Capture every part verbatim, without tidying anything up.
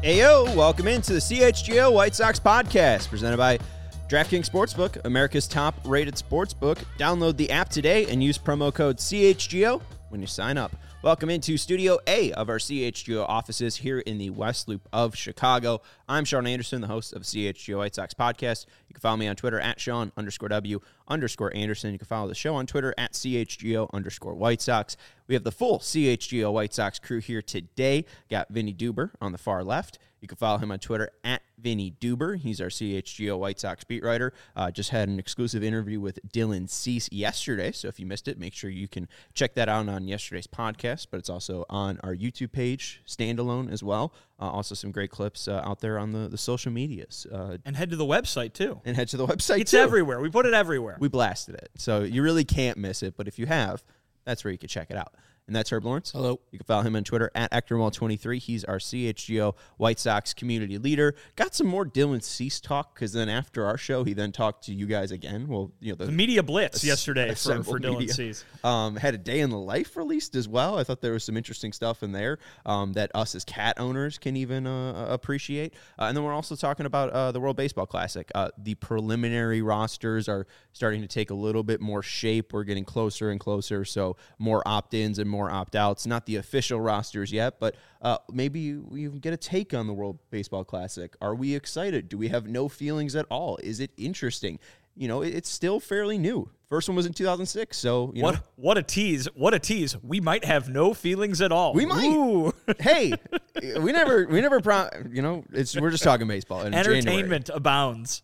Ayo, welcome into the C H G O White Sox podcast presented by DraftKings Sportsbook, America's top-rated sportsbook. Download the app today and use promo code C H G O when you sign up. Welcome into Studio A of our C H G O offices here in the West Loop of Chicago. I'm Sean Anderson, the host of C H G O White Sox podcast. You can follow me on Twitter at Sean underscore W underscore Anderson. You can follow the show on Twitter at C H G O underscore White Sox. We have the full C H G O White Sox crew here today. Got Vinny Duber on the far left. You can follow him on Twitter at Vinny Duber. He's our C H G O White Sox beat writer. Uh, just had an exclusive interview with Dylan Cease yesterday, so if you missed it, make sure you can check that out on yesterday's podcast, but it's also on our YouTube page, standalone as well. Uh, also some great clips uh, out there on the, the social medias. Uh, and head to the website, too. And head to the website, it's too. It's everywhere. We put it everywhere. We blasted it, so you really can't miss it, but if you have, that's where you can check it out. And that's Herb Lawrence. Hello. You can follow him on Twitter at Ectormall twenty-three. He's our C H G O White Sox community leader. Got some more Dylan Cease talk because then after our show, he then talked to you guys again. Well, you know the, the media blitz a, yesterday a for, for Dylan media. Cease. Um, had a day in the life released as well. I thought there was some interesting stuff in there um, that us as cat owners can even uh, appreciate. Uh, and then we're also talking about uh, the World Baseball Classic. Uh, the preliminary rosters are starting to take a little bit more shape. We're getting closer and closer, so more opt-ins and more opt-outs. Not the official rosters yet, but uh, maybe we get a take on the World Baseball Classic. Are we excited? Do we have no feelings at all? Is it interesting? You know, it's still fairly new. First one was in two thousand six, so you what know. what a tease! What a tease! We might have no feelings at all. We might. Ooh. Hey, we never, we never, pro- you know, it's we're just talking baseball. In Entertainment January. abounds.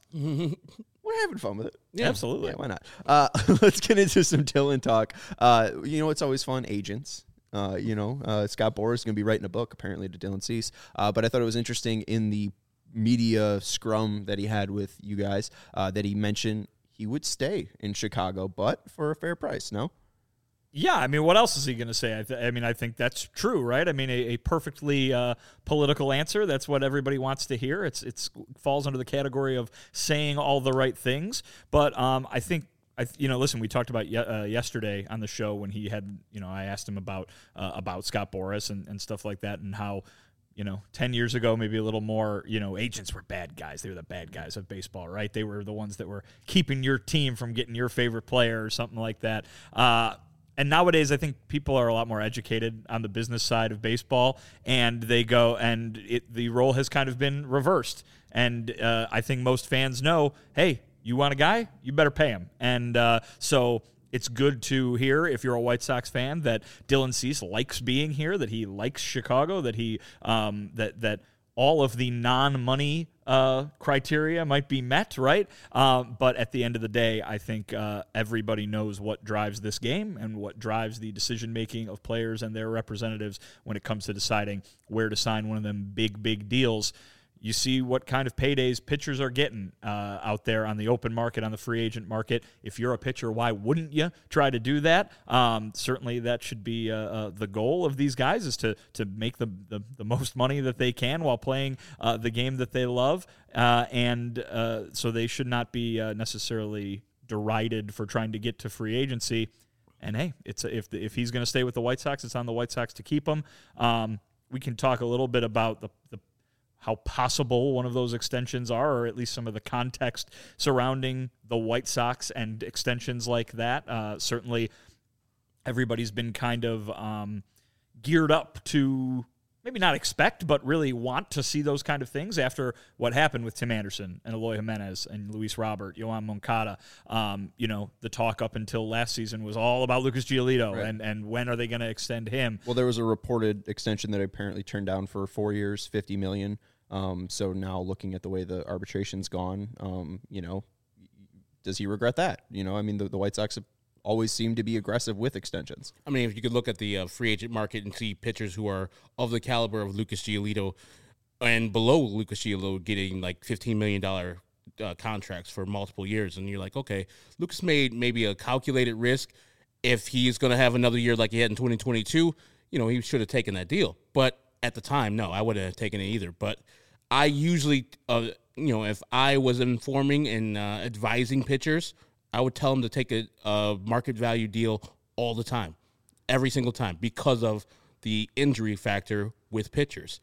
We're having fun with it. Yeah, absolutely. Yeah, why not? Uh, let's get into some Dylan talk. Uh, you know, it's always fun. Agents. Uh, you know, uh, Scott Boras is going to be writing a book, apparently, to Dylan Cease. Uh, but I thought it was interesting in the media scrum that he had with you guys uh, that he mentioned he would stay in Chicago, but for a fair price, no? Yeah, I mean, what else is he going to say? I, th- I mean, I think that's true, right? I mean, a, a perfectly uh, political answer. That's what everybody wants to hear. It's it's falls under the category of saying all the right things. But um, I think I, you know, listen, we talked about ye- uh, yesterday on the show when he had, you know, I asked him about uh, about Scott Boras and, and stuff like that, and how, you know, ten years ago, maybe a little more, you know, agents were bad guys. They were the bad guys of baseball, right? They were the ones that were keeping your team from getting your favorite player or something like that. Uh, and nowadays, I think people are a lot more educated on the business side of baseball, and they go, and it, the role has kind of been reversed. And uh, I think most fans know, hey, you want a guy? You better pay him. And uh, so it's good to hear, if you're a White Sox fan, that Dylan Cease likes being here, that he likes Chicago, that he um, that that all of the non-money uh, criteria might be met, right? Um, but at the end of the day, I think uh, everybody knows what drives this game and what drives the decision-making of players and their representatives when it comes to deciding where to sign one of them big, big deals. You see what kind of paydays pitchers are getting uh, out there on the open market, on the free agent market. If you're a pitcher, why wouldn't you try to do that? Um, certainly that should be uh, uh, the goal of these guys, is to to make the, the, the most money that they can while playing uh, the game that they love. Uh, and uh, so they should not be uh, necessarily derided for trying to get to free agency. And, hey, it's if the, if he's going to stay with the White Sox, it's on the White Sox to keep him. Um, we can talk a little bit about the, the how possible one of those extensions are, or at least some of the context surrounding the White Sox and extensions like that. Uh, certainly, everybody's been kind of um, geared up to maybe not expect, but really want to see those kind of things after what happened with Tim Anderson and Eloy Jimenez and Luis Robert, Yoan Moncada. Um, you know, the talk up until last season was all about Lucas Giolito, right. and, and when are they going to extend him? Well, there was a reported extension that apparently turned down for four years, fifty million dollars. Um, so now looking at the way the arbitration's gone, um, you know, does he regret that? You know, I mean, the, the White Sox have always seem to be aggressive with extensions. I mean, if you could look at the uh, free agent market and see pitchers who are of the caliber of Lucas Giolito and below Lucas Giolito getting like fifteen million dollars uh, contracts for multiple years, and you're like, okay, Lucas made maybe a calculated risk. If he's going to have another year like he had in twenty twenty-two, you know, he should have taken that deal. But at the time, no, I wouldn't have taken it either. But I usually, uh, you know, if I was informing and uh, advising pitchers, I would tell them to take a, a market value deal all the time, every single time, because of the injury factor with pitchers.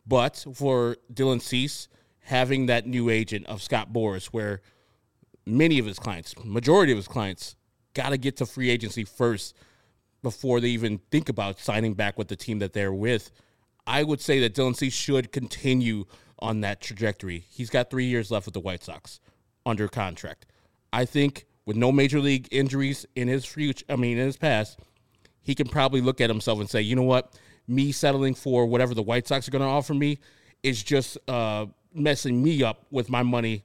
But for Dylan Cease, having that new agent of Scott Boras, where many of his clients, majority of his clients, got to get to free agency first before they even think about signing back with the team that they're with, I would say that Dylan Cease should continue on that trajectory. He's got three years left with the White Sox under contract. I think with no major league injuries in his future, I mean, in his past, he can probably look at himself and say, you know what, me settling for whatever the White Sox are going to offer me is just uh, messing me up with my money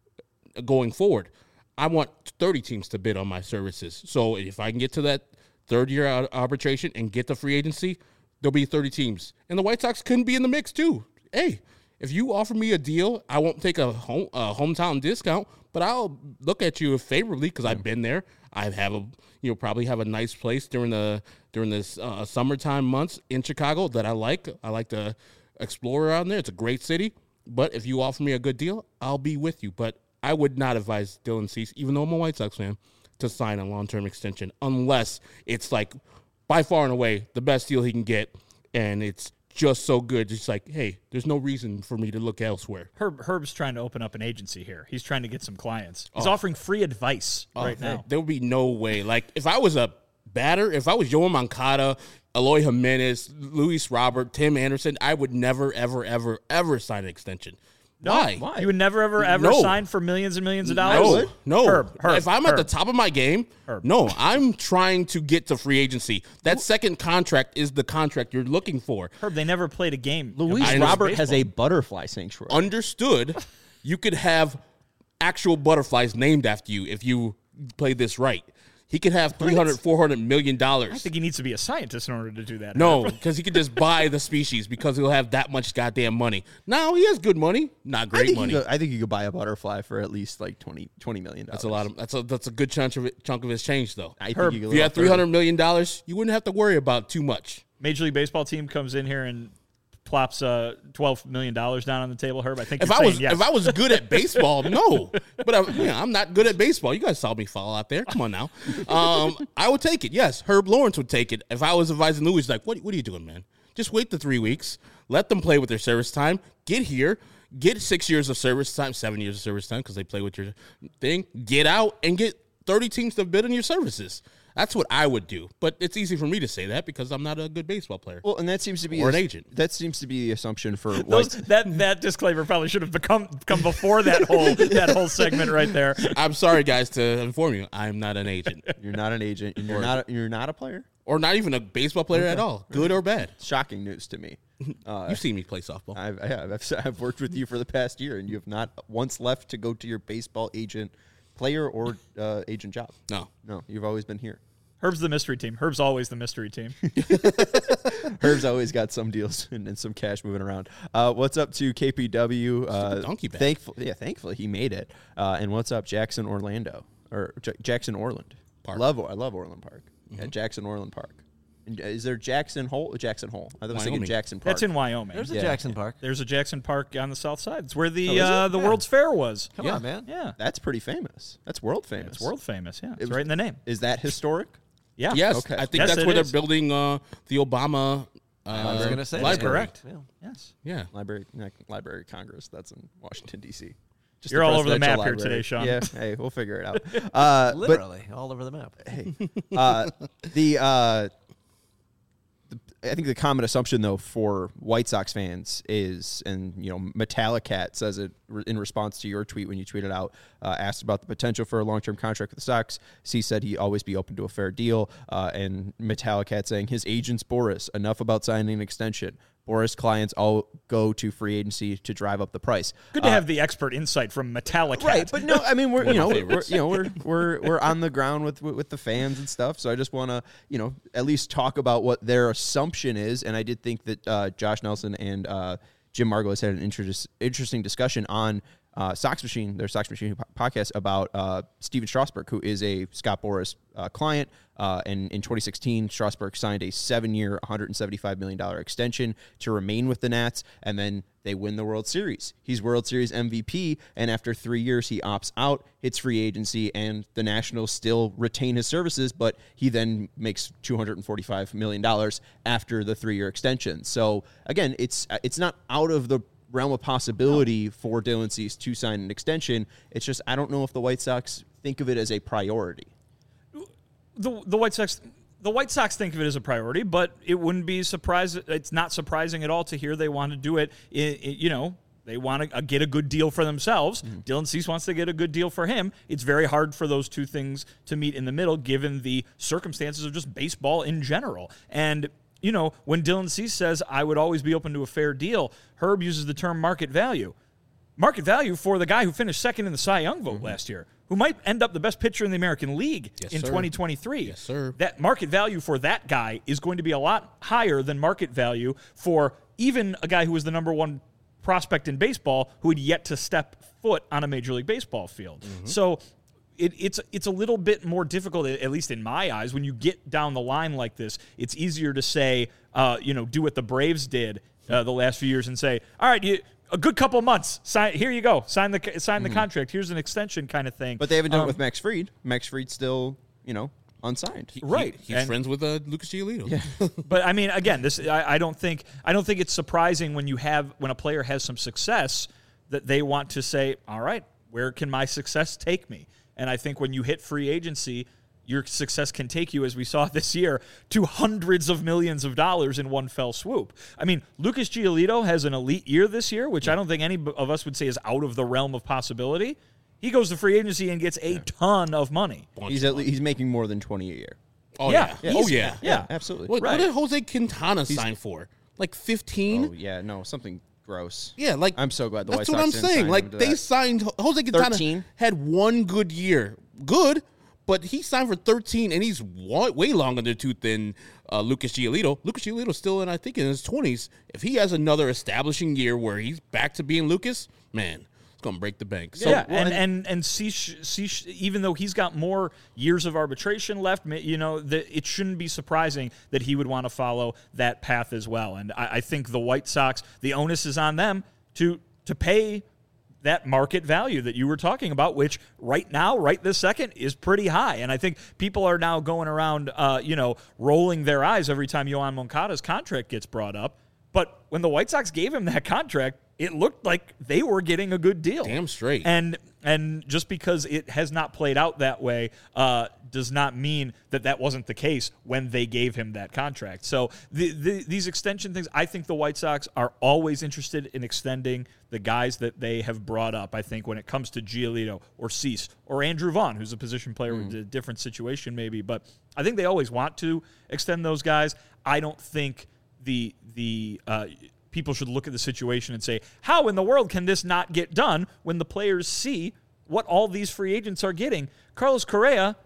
going forward. I want thirty teams to bid on my services. So if I can get to that third year arbitration and get the free agency, there'll be thirty teams. And the White Sox couldn't be in the mix too. Hey, if you offer me a deal, I won't take a, home, a hometown discount, but I'll look at you favorably because I've been there. I have a, you know, probably have a nice place during the during this uh, summertime months in Chicago that I like. I like to explore around there. It's a great city. But if you offer me a good deal, I'll be with you. But I would not advise Dylan Cease, even though I'm a White Sox fan, to sign a long-term extension unless it's like by far and away the best deal he can get, and it's just so good. It's like, hey, there's no reason for me to look elsewhere. Herb Herb's trying to open up an agency here. He's trying to get some clients. He's Oh. offering free advice Oh, right now. There would be no way. Like, if I was a batter, if I was Yoan Moncada, Eloy Jimenez, Luis Robert, Tim Anderson, I would never, ever, ever, ever sign an extension. Why? Why? You would never, ever, ever No. sign for millions and millions of dollars? No, no. Herb, Herb, if I'm at the Herb. top of my game, Herb. no, I'm trying to get to free agency. That second contract is the contract you're looking for. Herb, they never played a game. Luis I know Robert has a baseball. butterfly sanctuary. Understood. You could have actual butterflies named after you if you play this right. He could have three hundred, four hundred million dollars. I think he needs to be a scientist in order to do that. No, Herb. because he could just buy the species because he'll have that much goddamn money. Now he has good money, not I great think, money. you could, I think you could buy a butterfly for at least like twenty, twenty million dollars. That's a lot of that's a that's a good chunk of it, chunk of his change though. I think Herb, you could If you live had off three hundred million dollars, you wouldn't have to worry about too much. Major League Baseball team comes in here and plops uh, twelve million dollars down on the table, Herb. I think If you're I saying was yes. if I was good at baseball, no. But I, you know, I'm not good at baseball. You guys saw me fall out there. Come on now. Um, I would take it. Yes, Herb Lawrence would take it. If I was advising Louis, like, what what are you doing, man? Just wait the three weeks. Let them play with their service time. Get here. Get six years of service time, seven years of service time because they play with your thing. Get out and get thirty teams to bid on your services. That's what I would do. But it's easy for me to say that because I'm not a good baseball player. Well, and that seems to be Or a- an agent. That seems to be the assumption for Those, White. that that disclaimer probably should have become come before that whole that whole segment right there. I'm sorry, guys, to inform you, I'm not an agent. You're not an agent, and you're not. A, you're not a player. Or not even a baseball player at all, good or bad. Shocking news to me. Uh, You've seen me play softball. I've, I have. I've, I've worked with you for the past year, and you have not once left to go to your baseball agent, player or uh, agent job. No. No, you've always been here. Herb's the mystery team. Herb's always the mystery team. Herb's always got some deals and, and some cash moving around. Uh, what's up to K P W? Uh, donkey bag. thankful, yeah, thankfully he made it. Uh, and what's up, Jackson Orlando or J- Jackson Orland Park. Love, I love Orland Park. Yeah, Jackson Orland Park. And, uh, is there Jackson Hole? Jackson Hole. I was thinking Wyoming. Jackson Park. That's in Wyoming. There's a Yeah. Jackson Park. There's a Jackson Park on the south side. It's where the Oh, is it? uh, the Yeah. World's Fair was. Come Yeah. on, man. Yeah, That's pretty famous. That's world famous. it's world famous. Yeah, it's was- right in the name. Is that historic? Yeah. Yes, Okay. I think Yes, that's it where is. they're building uh, the Obama uh, I was gonna say that. library. Correct. Yeah. Yes. Yeah. Library, not Library of Congress. That's in Washington D C. Just You're all over the presidential map here library. today, Sean. Yeah. Hey, we'll figure it out. Uh, but Literally all over the map. hey, uh, the uh, the I think the common assumption though for White Sox fans is, and you know, Metallicat says it re- in response to your tweet when you tweeted out, uh, asked about the potential for a long-term contract with the Sox. C said he'd always be open to a fair deal, uh, and Metallicat saying his agent's Boris. Enough about signing an extension. Boris clients all go to free agency to drive up the price. Good to Uh, have the expert insight from Metallica. Right, but no, I mean we're you One know of my we're, favorites. you know we're we're we're on the ground with with, with the fans and stuff. So I just want to you know at least talk about what their assumption is. And I did think that uh, Josh Nelson and uh, Jim Margolis had an interest, interesting discussion on uh, Sox Machine, their Sox Machine podcast about uh, Steven Strasburg, who is a Scott Boras uh, client. Uh, and in twenty sixteen, Strasburg signed a seven-year, one hundred seventy-five million dollars extension to remain with the Nats, and then they win the World Series. He's World Series M V P, and after three years, he opts out, hits free agency, and the Nationals still retain his services, but he then makes two hundred forty-five million dollars after the three-year extension. So, again, it's it's not out of the realm of possibility for Dylan Cease to sign an extension. It's just I don't know if the White Sox think of it as a priority. The the White Sox the White Sox think of it as a priority, but it wouldn't be surprised. It's not surprising at all to hear they want to do it. it, it you know, they want to get a good deal for themselves. Mm-hmm. Dylan Cease wants to get a good deal for him. It's very hard for those two things to meet in the middle, given the circumstances of just baseball in general. And you know, when Dylan Cease says, "I would always be open to a fair deal," Herb uses the term market value. Market value for the guy who finished second in the Cy Young vote mm-hmm. last year, who might end up the best pitcher in the American League yes, in sir. twenty twenty-three. Yes, sir. That market value for that guy is going to be a lot higher than market value for even a guy who was the number one prospect in baseball who had yet to step foot on a Major League Baseball field. Mm-hmm. So it, it's it's a little bit more difficult, at least in my eyes, when you get down the line like this. It's easier to say, uh, you know, do what the Braves did uh, the last few years and say, all right, you. A good couple of months. Sign here. You go. Sign the sign the mm-hmm. contract. Here's an extension, kind of thing. But they haven't done um, it with Max Fried. Max Fried's still, you know, unsigned. He, right. He, he's and, friends with uh, Lucas Giolito. Yeah. But I mean, again, this I, I don't think I don't think it's surprising when you have when a player has some success that they want to say, all right, where can my success take me? And I think when you hit free agency, your success can take you, as we saw this year, to hundreds of millions of dollars in one fell swoop. I mean, Lucas Giolito has an elite year this year, which I don't think any of us would say is out of the realm of possibility. He goes to free agency and gets a ton of money. He's at least, he's making more than twenty a year. Oh, yeah. yeah. Oh, yeah. Yeah, yeah absolutely. What, right. what did Jose Quintana he's, sign for? Like fifteen? Oh, yeah. No, something gross. Yeah, like I'm so glad the That's White what Sox I'm saying. Like, they that. signed Jose Quintana thirteen had one good year. Good. But he signed for thirteen, and he's way longer in the tooth than uh, Lucas Giolito. Lucas Giolito's still in, I think, in his twenties. If he has another establishing year where he's back to being Lucas, man, it's going to break the bank. So, yeah, and and and Cease, Cease, even though he's got more years of arbitration left, you know, the, it shouldn't be surprising that he would want to follow that path as well. And I, I think the White Sox, the onus is on them to to pay that market value that you were talking about, which right now, right this second, is pretty high. And I think people are now going around, uh, you know, rolling their eyes every time Yoán Moncada's contract gets brought up. But when the White Sox gave him that contract, it looked like they were getting a good deal. Damn straight. And and just because it has not played out that way uh, does not mean that that wasn't the case when they gave him that contract. So the, the, these extension things, I think the White Sox are always interested in extending the guys that they have brought up. I think when it comes to Giolito or Cease or Andrew Vaughn, who's a position player mm. with a different situation maybe, but I think they always want to extend those guys. I don't think the the uh, people should look at the situation and say, how in the world can this not get done when the players see what all these free agents are getting? Carlos Correa,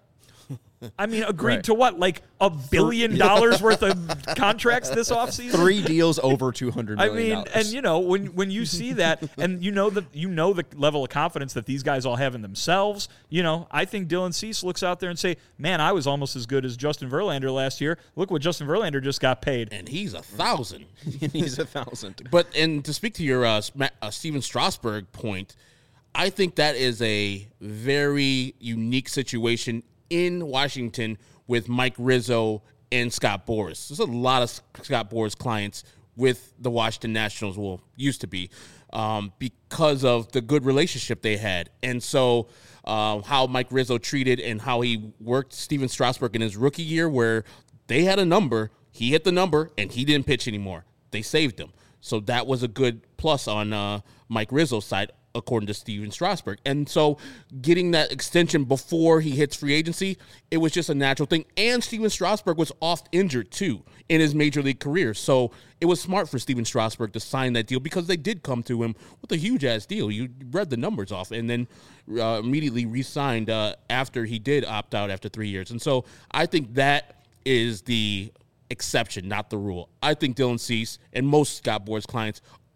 I mean, agreed right. to what, like a billion dollars worth of contracts this offseason? Three deals over two hundred million dollars. I mean, and you know, when when you see that, and you know that you know the level of confidence that these guys all have in themselves, you know, I think Dylan Cease looks out there and say, man, I was almost as good as Justin Verlander last year. Look what Justin Verlander just got paid. And he's a thousand. He's a thousand. But, and to speak to your uh, uh, Steven Strasburg point, I think that is a very unique situation in Washington with Mike Rizzo and Scott Boras. There's a lot of Scott Boras clients with the Washington Nationals, well, used to be, um, because of the good relationship they had. And so uh, how Mike Rizzo treated and how he worked Steven Strasburg in his rookie year, where they had a number, he hit the number, and he didn't pitch anymore. They saved him. So that was a good plus on uh, Mike Rizzo's side, according to Steven Strasburg. And so getting that extension before he hits free agency, it was just a natural thing. And Steven Strasburg was oft injured, too, in his major league career. So it was smart for Steven Strasburg to sign that deal because they did come to him with a huge-ass deal. You read the numbers off and then uh, immediately re-signed uh, after he did opt out after three years. And so I think that is the exception, not the rule. I think Dylan Cease and most Scott Boras clients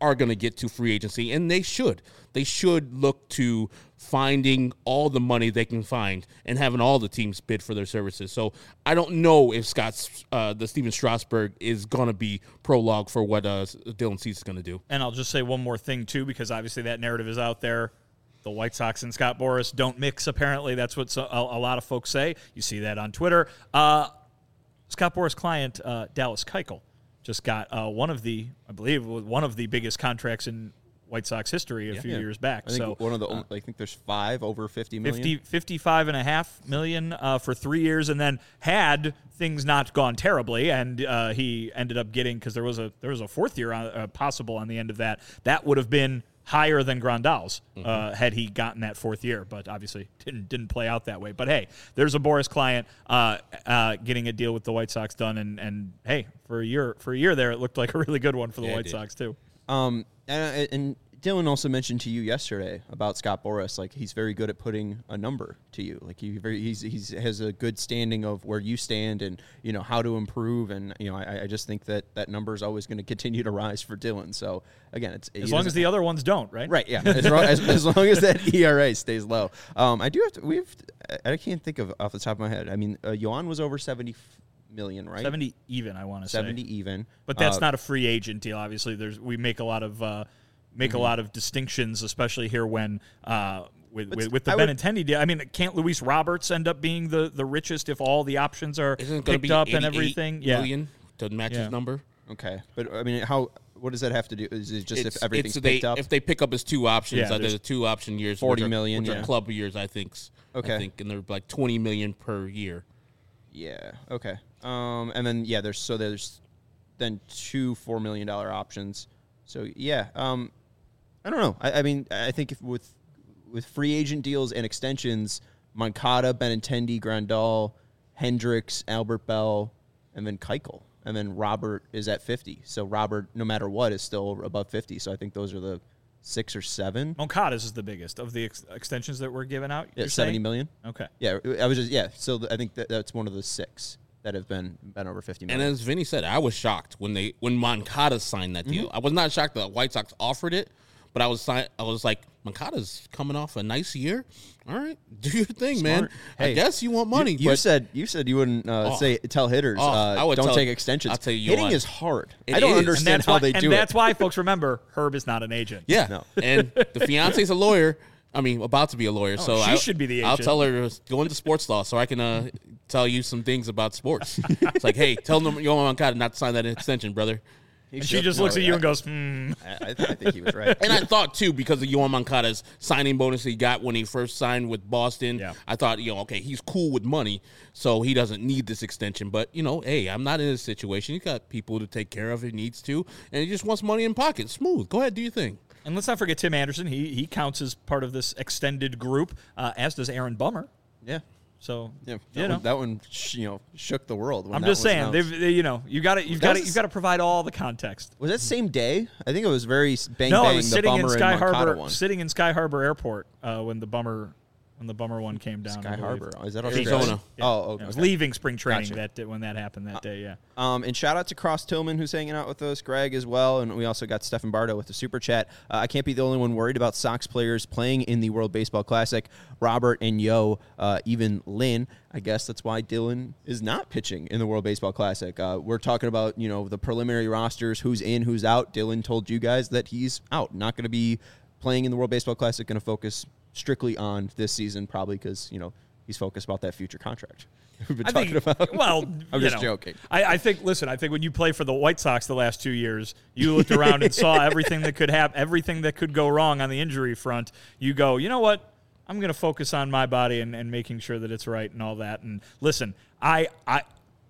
are going to get to free agency, and they should. They should look to finding all the money they can find and having all the teams bid for their services. So I don't know if Scott's uh, the Steven Strasburg is going to be prologue for what uh, Dylan Cease is going to do. And I'll just say one more thing, too, because obviously that narrative is out there. The White Sox and Scott Boras don't mix, apparently. That's what so, a, a lot of folks say. You see that on Twitter. Uh, Scott Boras' client, uh, Dallas Keuchel, just got uh, one of the, I believe, one of the biggest contracts in White Sox history a yeah. few yeah. years back. I think So one of the, uh, I think there's five over fifty million. fifty, fifty-five and a half million uh, for three years, and then had things not gone terribly, and uh, he ended up getting, because there was a there was a fourth year on, uh, possible on the end of that. That would have been higher than Grandal's mm-hmm. uh, had he gotten that fourth year, but obviously didn't didn't play out that way. But hey, there's a Boras client uh, uh, getting a deal with the White Sox done, and and hey, for a year for a year there, it looked like a really good one for the yeah, White Sox too. Um, and, and Dylan also mentioned to you yesterday about Scott Boras, like he's very good at putting a number to you. Like he very he's he's has a good standing of where you stand and you know how to improve. And you know I, I just think that that number is always going to continue to rise for Dylan. So again, it's as long as the other ones don't, right? Right. Yeah. As, long, as, as long as that E R A stays low. Um, I do have to. We've. I can't think of off the top of my head. I mean, uh, Yohan was over seventy million, right? seventy even, I want to say. seventy even. But that's uh, not a free agent deal. Obviously, there's we make a lot of uh, make mm-hmm. a lot of distinctions, especially here when uh, with, with with the I Benintendi deal. I mean, can't Luis Roberts end up being the, the richest if all the options are Isn't it gonna picked be up and everything? Million to match Yeah. his number. Okay, but I mean, how? What does that have to do? Is it just It's, if everything's it's they, picked up? If they pick up his two options, Yeah, uh, there's there's two option years, forty which are, million, which yeah. are club years, I think. Okay. I think, and they're like twenty million per year. Yeah. Okay. Um, and then yeah, there's so there's then two four million dollar options. So yeah. Um, I don't know. I, I mean, I think if with with free agent deals and extensions, Moncada, Benintendi, Grandal, Hendricks, Albert Bell, and then Keuchel, and then Robert is at fifty. So Robert, no matter what, is still above fifty. So I think those are the six or seven. Moncada's is the biggest of the ex- extensions that were given out. Yeah, you're seventy saying? million. Okay. Yeah, I was just yeah. So th- I think that that's one of the six that have been been over fifty And million. as Vinny said, I was shocked when they when Moncada signed that deal. Mm-hmm. I was not shocked that White Sox offered it, but I was si- I was like, Moncada's coming off a nice year. All right, do your thing, man. Hey, I guess you want money. You, you but said you said you wouldn't uh, Oh. say tell hitters Oh, uh, I would don't tell- take extensions. I'll tell you hitting what. is hard. It I don't is. And And understand that's how why, they and do that's it. why, folks, remember, Herb is not an agent. yeah, No. and the fiance's a lawyer. I mean, about to be a lawyer, so she I, should be the I'll agent. tell her to go into sports law so I can uh, tell you some things about sports. It's like, hey, tell them Yohan Moncada not to sign that extension, brother. And she just looks at you and goes, hmm. I, I, th- I think he was right. And I thought, too, because of Yohan Moncada's signing bonus he got when he first signed with Boston, Yeah. I thought, you know, okay, he's cool with money, so he doesn't need this extension. But, you know, hey, I'm not in this situation. He's got people to take care of if he needs to, and he just wants money in pocket. Smooth. Go ahead, do your thing. And let's not forget Tim Anderson. He he counts as part of this extended group, uh, as does Aaron Bummer. yeah, So yeah. That you know, one, that one, sh- you know, shook the world. When I'm that just was saying, announced. they've, they, you know, you got to you've That got was to a you've got to provide all the context. Was that same day? I think it was very s- bang no, bang. I was the sitting in Bummer Sky and Moncada Harbor, one. sitting in Sky Harbor Airport uh, when the Bummer when the Bummer one came down. Sky I believe. Harbor. Is that Arizona. Australia? Yeah. Oh, Yeah, okay. I was leaving spring training Gotcha. that day, when that happened that day. Yeah. Um, and shout out to Cross Tillman, who's hanging out with us, Greg as well, and we also got Stefan Bardo with the super chat. Uh, I can't be the only one worried about Sox players playing in the World Baseball Classic. Robert and Yo, uh, even Lynn. I guess that's why Dylan is not pitching in the World Baseball Classic. Uh, we're talking about you know the preliminary rosters, who's in, who's out. Dylan told you guys that he's out, not going to be playing in the World Baseball Classic. Going to focus strictly on this season, probably because you know he's focused about that future contract we've been I talking think, about. Well, I'm you just know, joking. I, I think. Listen, I think when you play for the White Sox the last two years, you looked around and saw everything that could happen, everything that could go wrong on the injury front. You go, you know what? I'm going to focus on my body and, and making sure that it's right and all that. And listen, I, I,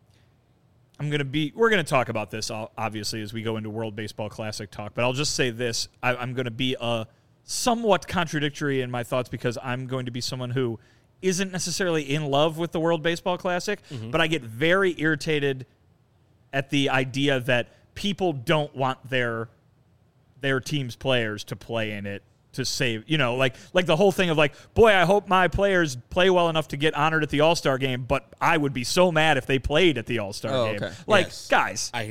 I'm going to be. We're going to talk about this obviously as we go into World Baseball Classic talk. But I'll just say this: I, I'm going to be a somewhat contradictory in my thoughts because I'm going to be someone who isn't necessarily in love with the World Baseball Classic, mm-hmm. but I get very irritated at the idea that people don't want their their team's players to play in it to save, you know, like like the whole thing of like, boy, I hope my players play well enough to get honored at the All-Star game, but I would be so mad if they played at the All-Star Oh, game. okay. Like, Yes. guys, I hear you.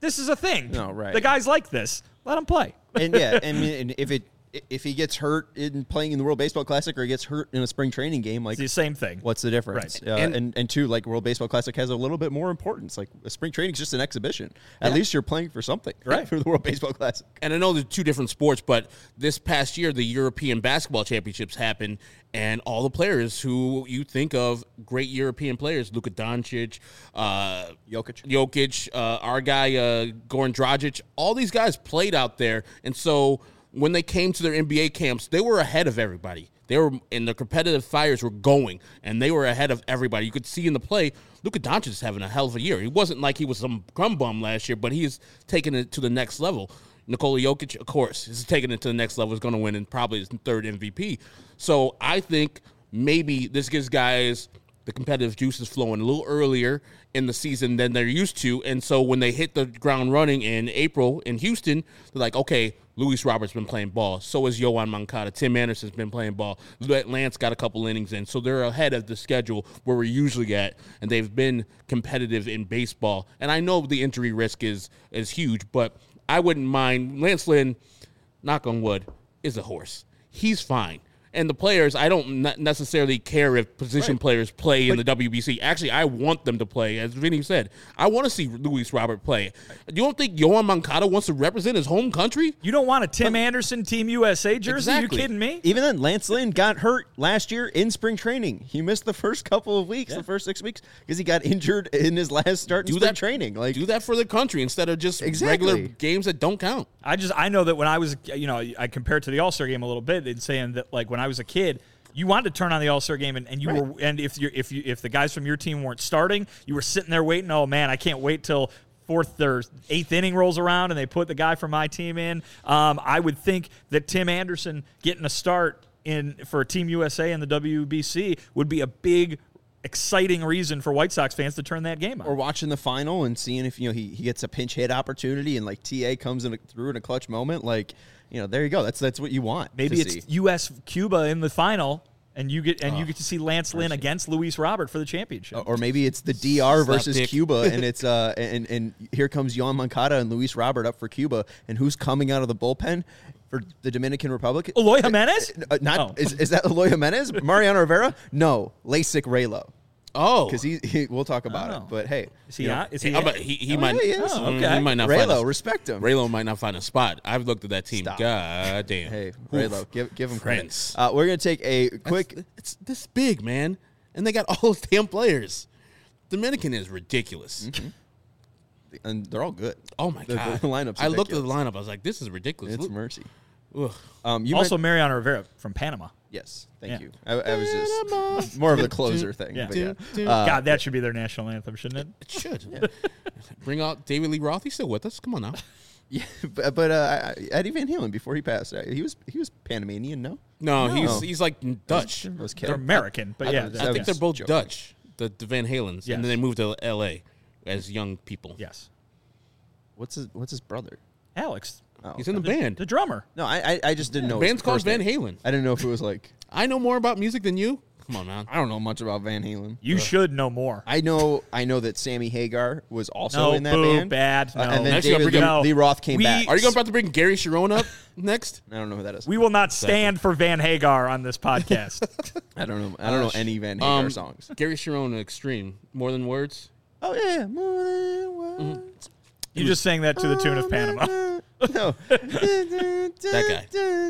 This is a thing. No, right. The guys like this. Let them play. And yeah, I mean, and if it if he gets hurt in playing in the World Baseball Classic or he gets hurt in a spring training game, like It's the same thing. what's the difference? Right. Uh, And- and, and two, like World Baseball Classic has a little bit more importance. Like a spring training is just an exhibition. At least you're playing for something, Right. For the World Baseball Classic. And I know they're two different sports, but this past year, the European Basketball Championships happened, and all the players who you think of, great European players, Luka Doncic, uh, Jokic. Jokic, uh, our guy, uh, Goran Dragic, all these guys played out there. And so when they came to their N B A camps, they were ahead of everybody. They were, and the competitive fires were going, and they were ahead of everybody. You could see in the play, Luka Doncic is having a hell of a year. He wasn't like he was some crumb bum last year, but he's taking it to the next level. Nikola Jokic, of course, is taking it to the next level, is going to win and probably his third M V P. So I think maybe this gives guys the competitive juices flowing a little earlier in the season than they're used to. And so when they hit the ground running in April in Houston, they're like, okay, Luis Roberts been playing ball. So has Yohan Moncada. Tim Anderson's been playing ball. Lance got a couple innings in. So they're ahead of the schedule where we're usually at, and they've been competitive in baseball. And I know the injury risk is is huge, but I wouldn't mind. Lance Lynn, knock on wood, is a horse. He's fine. And the players, I don't ne- necessarily care if position Right. players play in the W B C. Actually, I want them to play. As Vinny said, I want to see Luis Robert play. You don't think Yohan Moncada wants to represent his home country? You don't want a Tim Anderson Team U S A jersey? Exactly. You kidding me? Even then, Lance Lynn got hurt last year in spring training. He missed the first couple of weeks, the first six weeks, because he got injured in his last start in Do spring that training. Like, Do that for the country instead of just Exactly. regular games that don't count. I just I know that when I was you know I compare it to the All Star game a little bit in saying that like when I was a kid. You wanted to turn on the All Star game, and, and you Right. were, and if you if you if the guys from your team weren't starting, you were sitting there waiting. Oh man, I can't wait till fourth or eighth inning rolls around, and they put the guy from my team in. Um, I would think that Tim Anderson getting a start in for Team U S A and the W B C would be a big, exciting reason for White Sox fans to turn that game on. or watching the final and seeing if you know he, he gets a pinch hit opportunity and like T A comes in a, through in a clutch moment. Like, you know, there you go. That's that's what you want. Maybe to it's see. U S Cuba in the final, and you get and you Oh, get to see Lance Lynn against Luis Robert for the championship. or maybe it's the D R Slap versus dick. Cuba, and it's uh and and here comes Yohan Moncada and Luis Robert up for Cuba, and who's coming out of the bullpen for the Dominican Republic? Eloy Jimenez? Uh, not Oh. is, is that Eloy Jimenez? Mariano Rivera? No, LASIK Raylo. Oh, Because he, he, we'll talk about Oh. it. But hey, Is he you know, on? Is he? How about he, he Oh, might. yeah, he is. Oh, Mm, okay. He might not find Raylo, a, respect him. Raylo might not find a spot. I've looked at that team. Stop. God damn. Hey, Oof. Raylo, give give him credit. Prince. Uh, we're gonna take a quick. It's, it's this big, man, and they got all those damn players. Dominican is ridiculous. And they're all good. Oh my The- god, the lineup's I looked at the ridiculous. lineup. I was like, this is ridiculous. It's Look- mercy. Ugh. Um, you also meant- Mariano Rivera from Panama. yes, thank Yeah. you. I, I was just more of the closer thing. Yeah. But yeah. Uh, God, that should be their national anthem, shouldn't it? It should. Bring out David Lee Roth. He's still with us. Come on now. yeah, but, but uh, I- Eddie Van Halen before he passed, uh, he was he was Panamanian. No, No, No. he's he's like Dutch. That was They're Kev. American, but I yeah, thought- they're- I think yes. they're both Joking. Dutch. The, the Van Halens, Yes. and then they moved to L A as young people. Yes, What's his What's his brother? Alex, Oh, He's in the the, band. the drummer. no, I I, I just didn't know. The his band's called first Van name. Halen. I didn't know if it was like I know more about music than you. Come on, man. I don't know much about Van Halen. You should know more. I know I know that Sammy Hagar was also No, in that boo, band. bad. Uh, No. and then Next you gotta David bring Lee, up- Lee Roth came We- back. Are you going about to bring Gary Sharon up next? I don't know who that is. We will not stand for Van Hagar on this podcast. I don't know. I don't know any Van Hagar Um, songs. Gary Sharon Extreme. More than words. Oh yeah, more than words. You just sang that to the tune of Panama. No, That guy.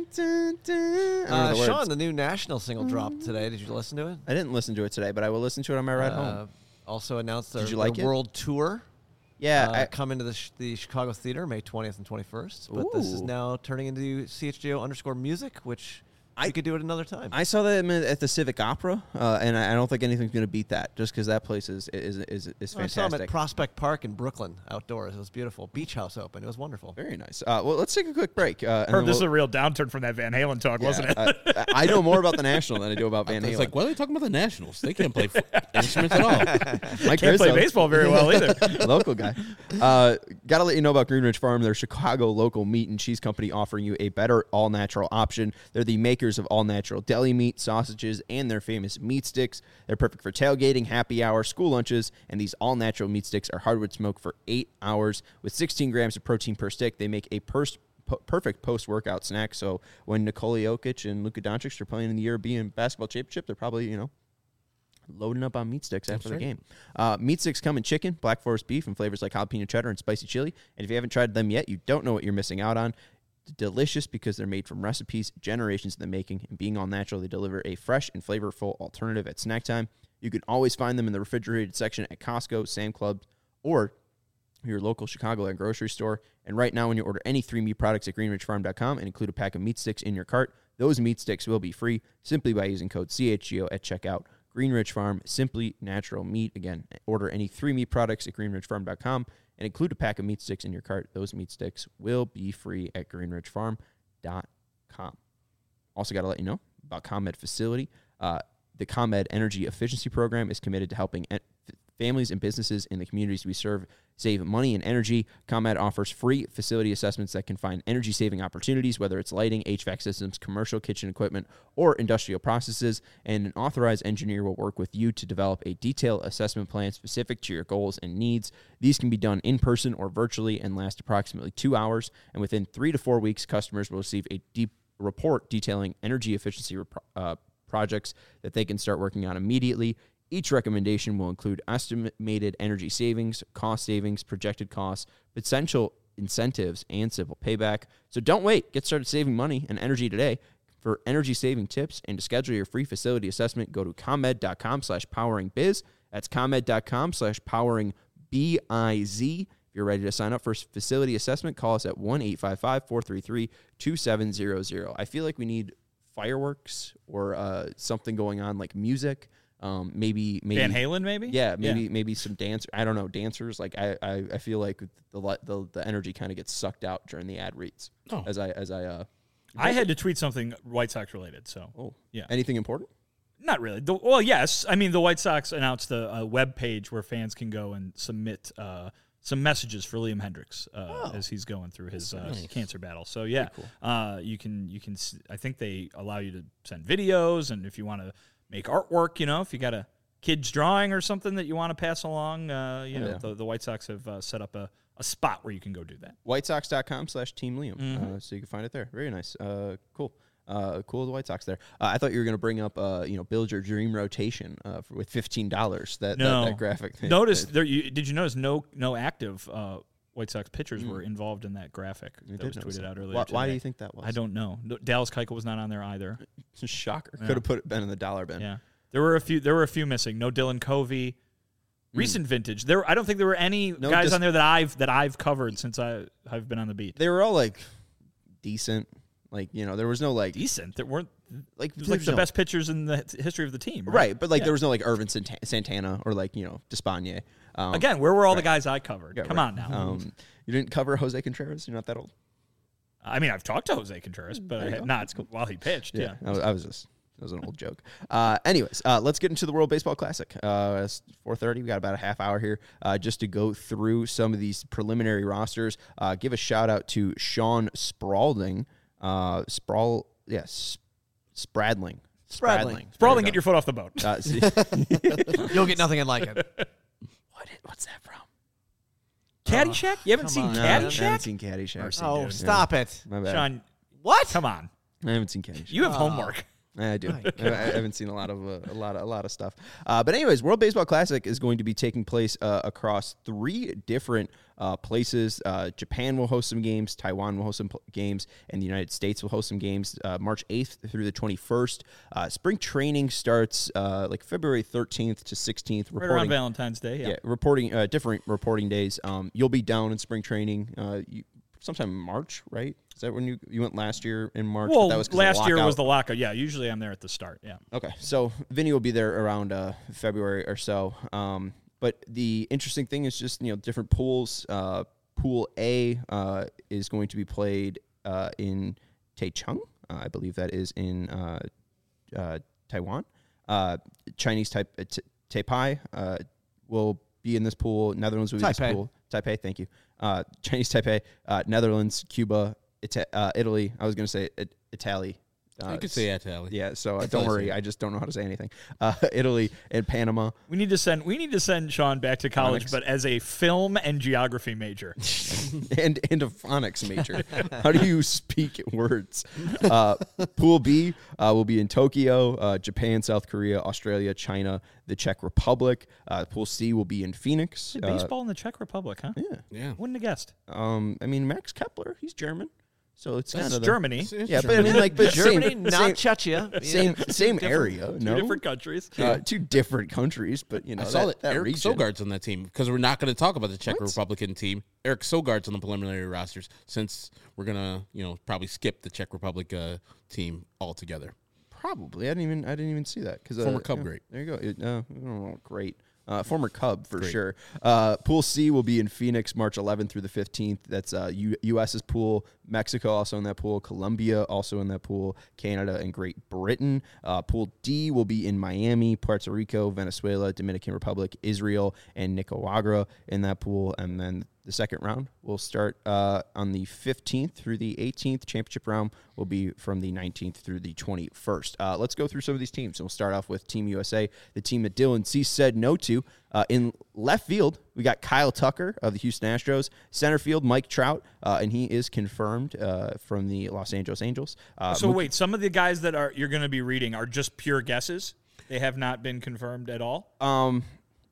Uh, Sean, the new national single dropped today. Did you listen to it? I didn't listen to it today, but I will listen to it on my ride Uh, home. also announced their, Did you like their it? world tour. Yeah, uh, I, coming to the, sh- the Chicago Theater May twentieth and twenty-first. But this is Ooh. now turning into C H G O underscore music, which I- I could do it another time. I saw that at the Civic Opera, uh, and I I don't think anything's going to beat that, just because that place is is is, is I saw him at fantastic. Prospect Park in Brooklyn outdoors. It was beautiful. Beach house open. It was wonderful. Very nice. Uh, well, let's take a quick break. Uh, and Heard then this is we'll- a real downturn from that Van Halen talk, yeah, wasn't it? I, I know more about the National than I do about Van Halen. It's like, why are they talking about the Nationals? They can't play f- instruments at all. Mike Can't play Grissom, baseball very well either. local guy. Uh, got to let you know about Green Ridge Farm. They're a Chicago local meat and cheese company offering you a better all-natural option. They're the makers of all-natural deli meat, sausages, and their famous meat sticks. They're perfect for tailgating, happy hour, school lunches, and these all-natural meat sticks are hardwood smoked for eight hours. With sixteen grams of protein per stick, they make a pers- p- perfect post-workout snack. So when Nikola Jokic and Luka Doncic are playing in the European Basketball Championship, they're probably, you know, loading up on meat sticks after the game. Uh, meat sticks come in chicken, black forest beef, and flavors like jalapeno cheddar and spicy chili. And if you haven't tried them yet, you don't know what you're missing out on. Delicious because they're made from recipes, generations in the making, and being all natural, they deliver a fresh and flavorful alternative at snack time. You can always find them in the refrigerated section at Costco, Sam Club, or your local Chicagoland grocery store. And right now, when you order any three meat products at green ridge farm dot com and include a pack of meat sticks in your cart, those meat sticks will be free simply by using code C H G O at checkout. Green Ridge Farm, simply natural meat. Again, order any three meat products at green ridge farm dot com and include a pack of meat sticks in your cart. Those meat sticks will be free at green ridge farm dot com. Also got to let you know about ComEd Facility. Uh, the ComEd Energy Efficiency Program is committed to helping en- families and businesses in the communities we serve save money and energy. ComEd offers free facility assessments that can find energy-saving opportunities, whether it's lighting, H V A C systems, commercial kitchen equipment, or industrial processes, and an authorized engineer will work with you to develop a detailed assessment plan specific to your goals and needs. These can be done in person or virtually and last approximately two hours, and within three to four weeks, customers will receive a deep report detailing energy efficiency rep- uh, projects that they can start working on immediately. Each recommendation will include estimated energy savings, cost savings, projected costs, potential incentives, and simple payback. So don't wait. Get started saving money and energy today. For energy-saving tips and to schedule your free facility assessment, go to comed dot com slash powering biz. That's comed dot com slash powering B I Z. If you're ready to sign up for facility assessment, call us at one eight five five, four three three, two seven zero zero. I feel like we need fireworks or uh, something going on like music. Um, maybe, maybe Van Halen, maybe. Yeah, maybe, yeah. maybe some dance. I don't know, dancers. Like I, I, I feel like the the the energy kind of gets sucked out during the ad reads. Oh. As I as I uh, I had to tweet something White Sox related. So, oh yeah, anything important? Not really. The, well, yes. I mean, the White Sox announced a, a web page where fans can go and submit uh, some messages for Liam Hendricks uh, oh. as he's going through his uh, nice. cancer battle. So yeah, cool. uh, you can you can. I think they allow you to send videos, and if you want to make artwork, you know, if you got a kid's drawing or something that you want to pass along, uh, you know, yeah. the, the White Sox have uh, set up a, a spot where you can go do that. white sox dot com slash team Liam. Mm-hmm. Uh, so you can find it there. Very nice. Uh, cool. Uh, cool, the White Sox there. Uh, I thought you were going to bring up, uh, you know, build your dream rotation uh, for, with fifteen dollars. That, no. that that graphic. Notice there. You, did you notice no no active uh, White Sox pitchers mm. were involved in that graphic I that was tweeted that. out earlier? Why, today. why do you think that was? I don't know. Dallas Keuchel was not on there either. It's a shocker. Yeah. Could have put it been in the dollar bin. Yeah, there were a few. There were a few missing. No Dylan Covey. Recent mm. vintage. There, I don't think there were any no guys dis- on there that I've that I've covered since I I've been on the beat. They were all like decent. Like, you know, there was no like decent. There weren't like it was like the no, best pitchers in the history of the team, right? right but like yeah. there was no like Irvin Santana or like, you know, Despaigne. Um, Again, where were all right. the guys I covered? Yeah, Come right. on now. Um, you didn't cover Jose Contreras. You're not that old. I mean, I've talked to Jose Contreras, but I had not cool. while he pitched. Yeah, yeah. I, was, I was just. That was an old joke. Uh, anyways, uh, let's get into the World Baseball Classic. Uh, it's four thirty. We got about a half hour here uh, just to go through some of these preliminary rosters. Uh, give a shout out to Sean Spradling. Uh, Sprawl, yes, Spradling. Spradling. Spradling, get your foot off the boat. Uh, see, You'll get nothing unlike it. what? Is, what's that from? Caddyshack? You haven't seen on. Caddyshack? No, I haven't seen Caddyshack. Mercy, oh, dude. stop yeah. it. My bad. Sean, what? Come on. I haven't seen Caddyshack. You have Oh. homework. I do. I, I haven't seen a lot of uh, a lot of a lot of stuff. Uh, but anyways, World Baseball Classic is going to be taking place uh, across three different uh, places. Uh, Japan will host some games, Taiwan will host some pl- games, and the United States will host some games. Uh, March eighth through the twenty-first. Uh, spring training starts uh, like February thirteenth to sixteenth. Right around Valentine's Day. Yeah, yeah reporting uh, different reporting days. Um, you'll be down in spring training. Uh, you, sometime in March, right? Is that when you you went last year in March? Well, that was last year was the lockout. Yeah, usually I'm there at the start. Yeah. Okay, so Vinny will be there around uh, February or so. Um, but the interesting thing is just, you know, different pools. Uh, pool A uh, is going to be played uh, in Taichung. Uh, I believe that is in uh, uh, Taiwan. Uh, Chinese type uh, t- Taipei uh, will be in this pool. Netherlands will be in Taipei. this pool. Taipei, thank you. Uh, Chinese Taipei, uh, Netherlands, Cuba, Ita- uh, Italy. I was going to say it- Italy. Uh, you could say Italy. Yeah, so uh, That's don't all I worry. say. I just don't know how to say anything. Uh, Italy and Panama. We need to send we need to send Sean back to college, Phonics. but as a film and geography major. and and a phonics major. How do you speak words? Uh, Pool B uh, will be in Tokyo, uh, Japan, South Korea, Australia, China, the Czech Republic. Uh, Pool C will be in Phoenix. Uh, Baseball in the Czech Republic, huh? yeah. Yeah. Wouldn't have guessed. Um, I mean, Max Kepler, he's German, so it's kind It's of the- Germany. It's- it's Yeah, but I mean, like, but Germany, same, not same, Chechnya. same, Yeah. same Different- area. Two no, different countries. uh, two different countries, but you know, I saw that, that, that Eric region. Sogard's on that team because we're not going to talk about the Czech What? Republican team. Eric Sogard's on the preliminary rosters since we're going to, you know, probably skip the Czech Republic uh, team altogether. Probably. I didn't even. I didn't even see that because Former uh, Cub yeah, great. There you go. It, uh, oh, great. Uh, former Cub for Great. sure. Uh, pool C will be in Phoenix, March eleventh through the fifteenth. That's uh, U- US's pool. Mexico also in that pool. Colombia also in that pool. Canada and Great Britain. Uh, pool D will be in Miami, Puerto Rico, Venezuela, Dominican Republic, Israel, and Nicaragua in that pool. And then the second round will start uh, on the fifteenth through the eighteenth. Championship round will be from the nineteenth through the twenty-first. Uh, let's go through some of these teams. We'll start off with Team U S A, the team that Dylan C. said no to. Uh, in left field, we got Kyle Tucker of the Houston Astros. Center field, Mike Trout, uh, and he is confirmed uh, from the Los Angeles Angels. Uh, So Mookie- wait, some of the guys that are you're going to be reading are just pure guesses. They have not been confirmed at all. um,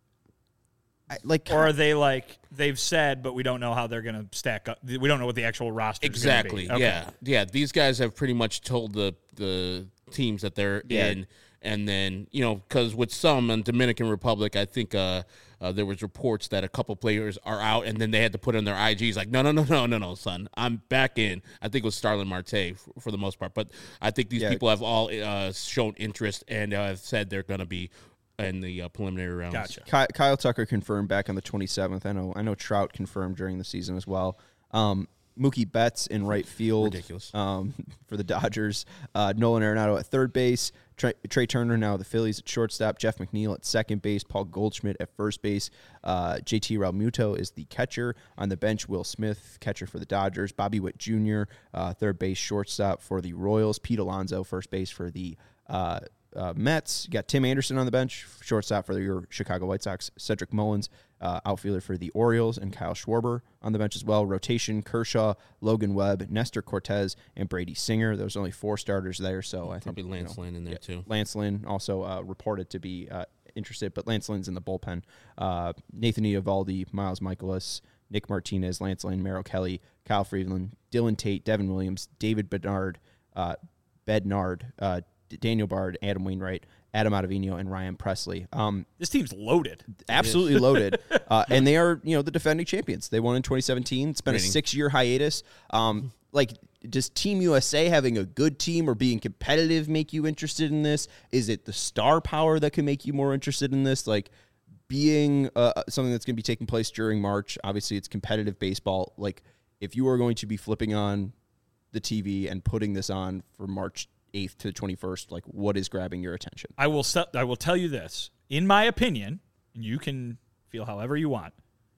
I, like Or are they like they've said, but we don't know how they're going to stack up? We don't know what the actual roster Exactly. is going to be. Yeah. Yeah. These guys have pretty much told the the teams that they're Yeah. in, and then you know, because with some in Dominican Republic, I think uh, uh, there was reports that a couple players are out, and then they had to put in their I Gs like, no, no, no, no, no, no, son, I'm back in. I think it was Starlin Marte for, for the most part, but I think these Yeah. people have all uh, shown interest and uh, have said they're going to be in the uh, preliminary rounds. Gotcha. Ky- Kyle Tucker confirmed back on the twenty-seventh. I know I know Trout confirmed during the season as well. Um, Mookie Betts in right field. Ridiculous. Um, for the Dodgers. Uh, Nolan Arenado at third base. Trey, Trey Turner now the Phillies at shortstop. Jeff McNeil at second base. Paul Goldschmidt at first base. Uh, J T Realmuto is the catcher. On the bench, Will Smith, catcher for the Dodgers. Bobby Witt Junior, uh, third base shortstop for the Royals. Pete Alonso, first base for the uh, Uh, Mets. You got Tim Anderson on the bench, shortstop for your Chicago White Sox. Cedric Mullins, uh, outfielder for the Orioles, and Kyle Schwarber on the bench as well. Rotation: Kershaw, Logan Webb, Nestor Cortez, and Brady Singer. There's only four starters there, so I think Probably Lance you know, Lynn in there too. Lance Lynn also uh, reported to be uh, interested, but Lance Lynn's in the bullpen. Uh, Nathan Eovaldi, Miles Michaelis, Nick Martinez, Lance Lynn, Merrill Kelly, Kyle Freeland, Dylan Tate, Devin Williams, David Bednard, uh, Bednard, uh, Daniel Bard, Adam Wainwright, Adam Ottavino, and Ryan Presley. Um, This team's loaded. absolutely loaded, uh, and they are you know the defending champions. They won in twenty seventeen. It's been Rating. a six year hiatus. Um, like, does Team U S A having a good team or being competitive make you interested in this? Is it the star power that can make you more interested in this? Like, being uh, something that's going to be taking place during March. Obviously, it's competitive baseball. Like, if you are going to be flipping on the T V and putting this on for March eighth to the twenty-first, like, what is grabbing your attention? I will se- I will tell you this. In my opinion, and you can feel however you want,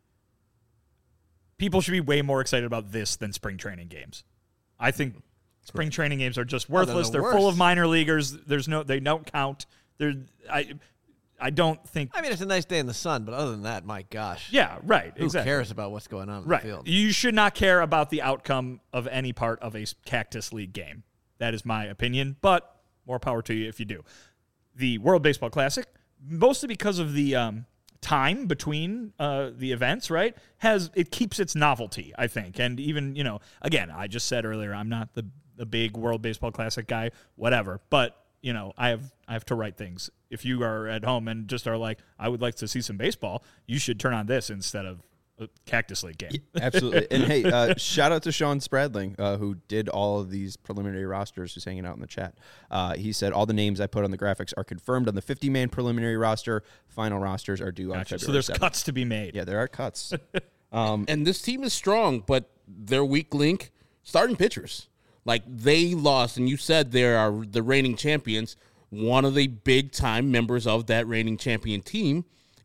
people should be way more excited about this than spring training games. I think spring training games are just Oh, they're worthless. the They're full worst. of minor leaguers. There's no they don't count. They're I I don't think I mean, it's a nice day in the sun, but other than that, my gosh. Yeah, right. Who exactly. cares about what's going on in Right. the field? You should not care about the outcome of any part of a Cactus League game. That is my opinion, but more power to you if you do. The World Baseball Classic, mostly because of the um, time between uh, the events, right, has it keeps its novelty, I think. And even, you know, again, I just said earlier, I'm not the, the big World Baseball Classic guy, whatever, but you know, I have I have to write things. If you are at home and just are like, I would like to see some baseball, you should turn on this instead of a Cactus League game. Absolutely. And hey, uh, shout out to Sean Spradling, uh, who did all of these preliminary rosters, who's hanging out in the chat. Uh, he said all the names I put on the graphics are confirmed on the fifty-man preliminary roster. Final rosters are due on Gotcha. February So there's seventh. cuts to be made. Yeah, there are cuts. And this team is strong, but their weak link, starting pitchers. Like, they lost, and you said they are the reigning champions. One of the big-time members of that reigning champion team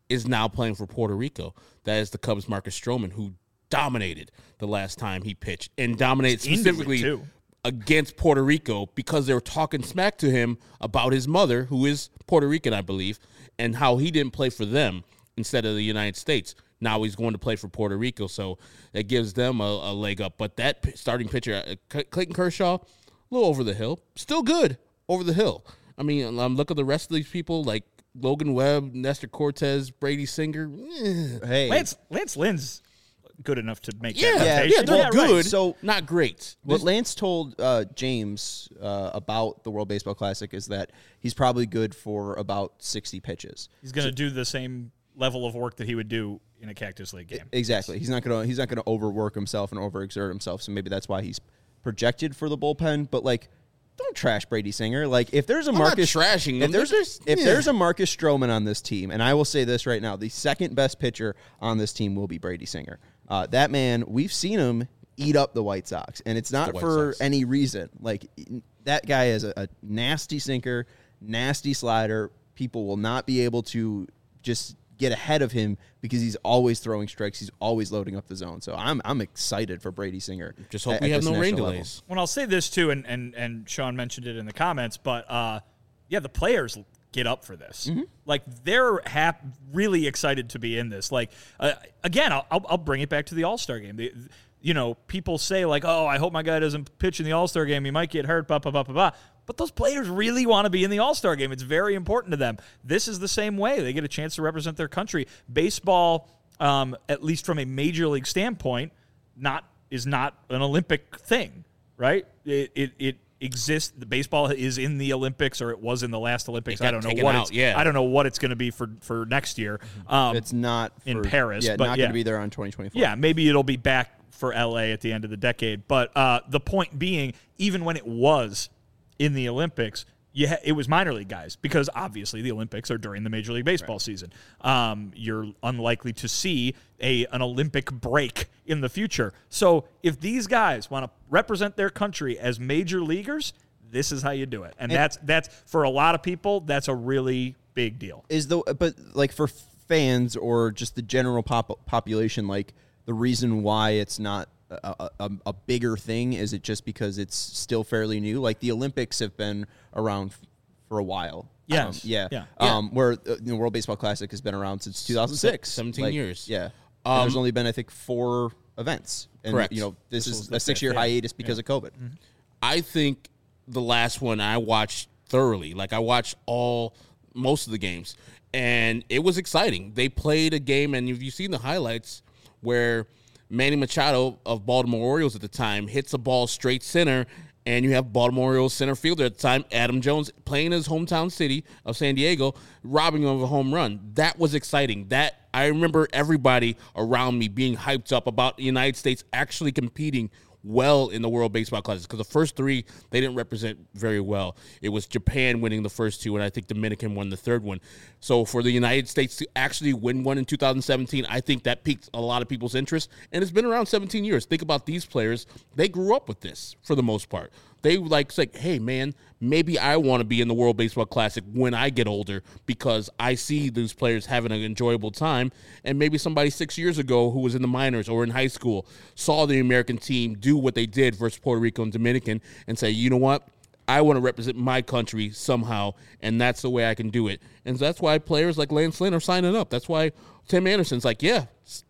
is now playing for Puerto Rico. That is the Cubs' Marcus Stroman, who dominated the last time he pitched and dominated specifically too. against Puerto Rico because they were talking smack to him about his mother, who is Puerto Rican, I believe, and how he didn't play for them instead of the United States. Now he's going to play for Puerto Rico, so that gives them a, a leg up. But that p- starting pitcher, uh, Clayton Kershaw, a little over the hill, still good over the hill. I mean, um, look at the rest of these people like Logan Webb, Nestor Cortez, Brady Singer. Eh. Hey, Lance Lance Lynn's good enough to make Yeah, that yeah, rotation. they're Yeah, right. good, So- not great. what Lance told uh, James uh, about the World Baseball Classic is that he's probably good for about sixty pitches. He's going to do the same level of work that he would do in a Cactus League game. Exactly. He's not gonna he's not gonna overwork himself and overexert himself. So maybe that's why he's projected for the bullpen. But like, don't trash Brady Singer. Like, if there's a I'm not Marcus trashing him. if there's There's- if yeah. there's a Marcus Stroman on this team, and I will say this right now, the second best pitcher on this team will be Brady Singer. Uh, that man, we've seen him eat up the White Sox, and it's not White for Sox. any reason. Like, that guy is a, a nasty sinker, nasty slider. People will not be able to just get ahead of him because he's always throwing strikes. He's always loading up the zone. So I'm I'm excited for Brady Singer. Just hope at- we at have this no rain national level. delays. Well, I'll say this too, and, and, and Sean mentioned it in the comments, but uh, yeah, the players get up for this. Mm-hmm. Like, they're hap- really excited to be in this. Like, uh, again, I'll, I'll I'll bring it back to the All-Star game. The, you know, people say, like, oh, I hope my guy doesn't pitch in the All-Star game. He might get hurt, blah, blah, blah, blah, blah. But those players really want to be in the All-Star game. It's very important to them. This is the same way. They get a chance to represent their country. Baseball, um, at least from a major league standpoint, not is not an Olympic thing, right? It it, it exists. The baseball is in the Olympics, or it was in the last Olympics. It got I don't know taken what out, it's. yeah. I don't know what it's going to be for, for next year. Um, It's not in for- Paris, Yeah, but not yeah. going to be there on twenty twenty-four. yeah, maybe it'll be back for L A at the end of the decade. But uh, the point being, even when it was in the Olympics, yeah, it was minor league guys because obviously the Olympics are during the Major League Baseball right. season. Um, you're unlikely to see a an Olympic break in the future. So if these guys want to represent their country as major leaguers, this is how you do it. And, and that's that's for a lot of people, that's a really big deal. Is the but like for fans or just the general pop, population, like the reason why it's not A, a, a bigger thing? Is it just because it's still fairly new? Like the Olympics have been around f- for a while. Yes. Um, yeah. Yeah. Um, where uh, the World Baseball Classic has been around since two thousand six. seventeen Like, years. Yeah. Um, and there's only been, I think, four events. And, Correct. you know, this, This is was the a six-year fifth, yeah. hiatus because Yeah. of COVID. Mm-hmm. I think the last one I watched thoroughly. Like I watched all most of the games, and it was exciting. They played a game, and if you've seen the highlights where Manny Machado of Baltimore Orioles at the time hits a ball straight center, and you have Baltimore Orioles center fielder at the time, Adam Jones, playing his hometown city of San Diego, robbing him of a home run. That was exciting. That I remember everybody around me being hyped up about the United States actually competing well in the World Baseball Classic, because the first three they didn't represent very well. It was Japan winning the first two, and I think Dominican won the third one. So for the United States to actually win one in two thousand seventeen, I think that piqued a lot of people's interest, and it's been around seventeen years. Think about these players. They grew up with this for the most part. They like say, hey, man, maybe I want to be in the World Baseball Classic when I get older because I see these players having an enjoyable time. And maybe somebody six years ago who was in the minors or in high school saw the American team do what they did versus Puerto Rico and Dominican and say, you know what? I want to represent my country somehow, and that's the way I can do it. And that's why players like Lance Lynn are signing up. That's why Tim Anderson's like, yeah,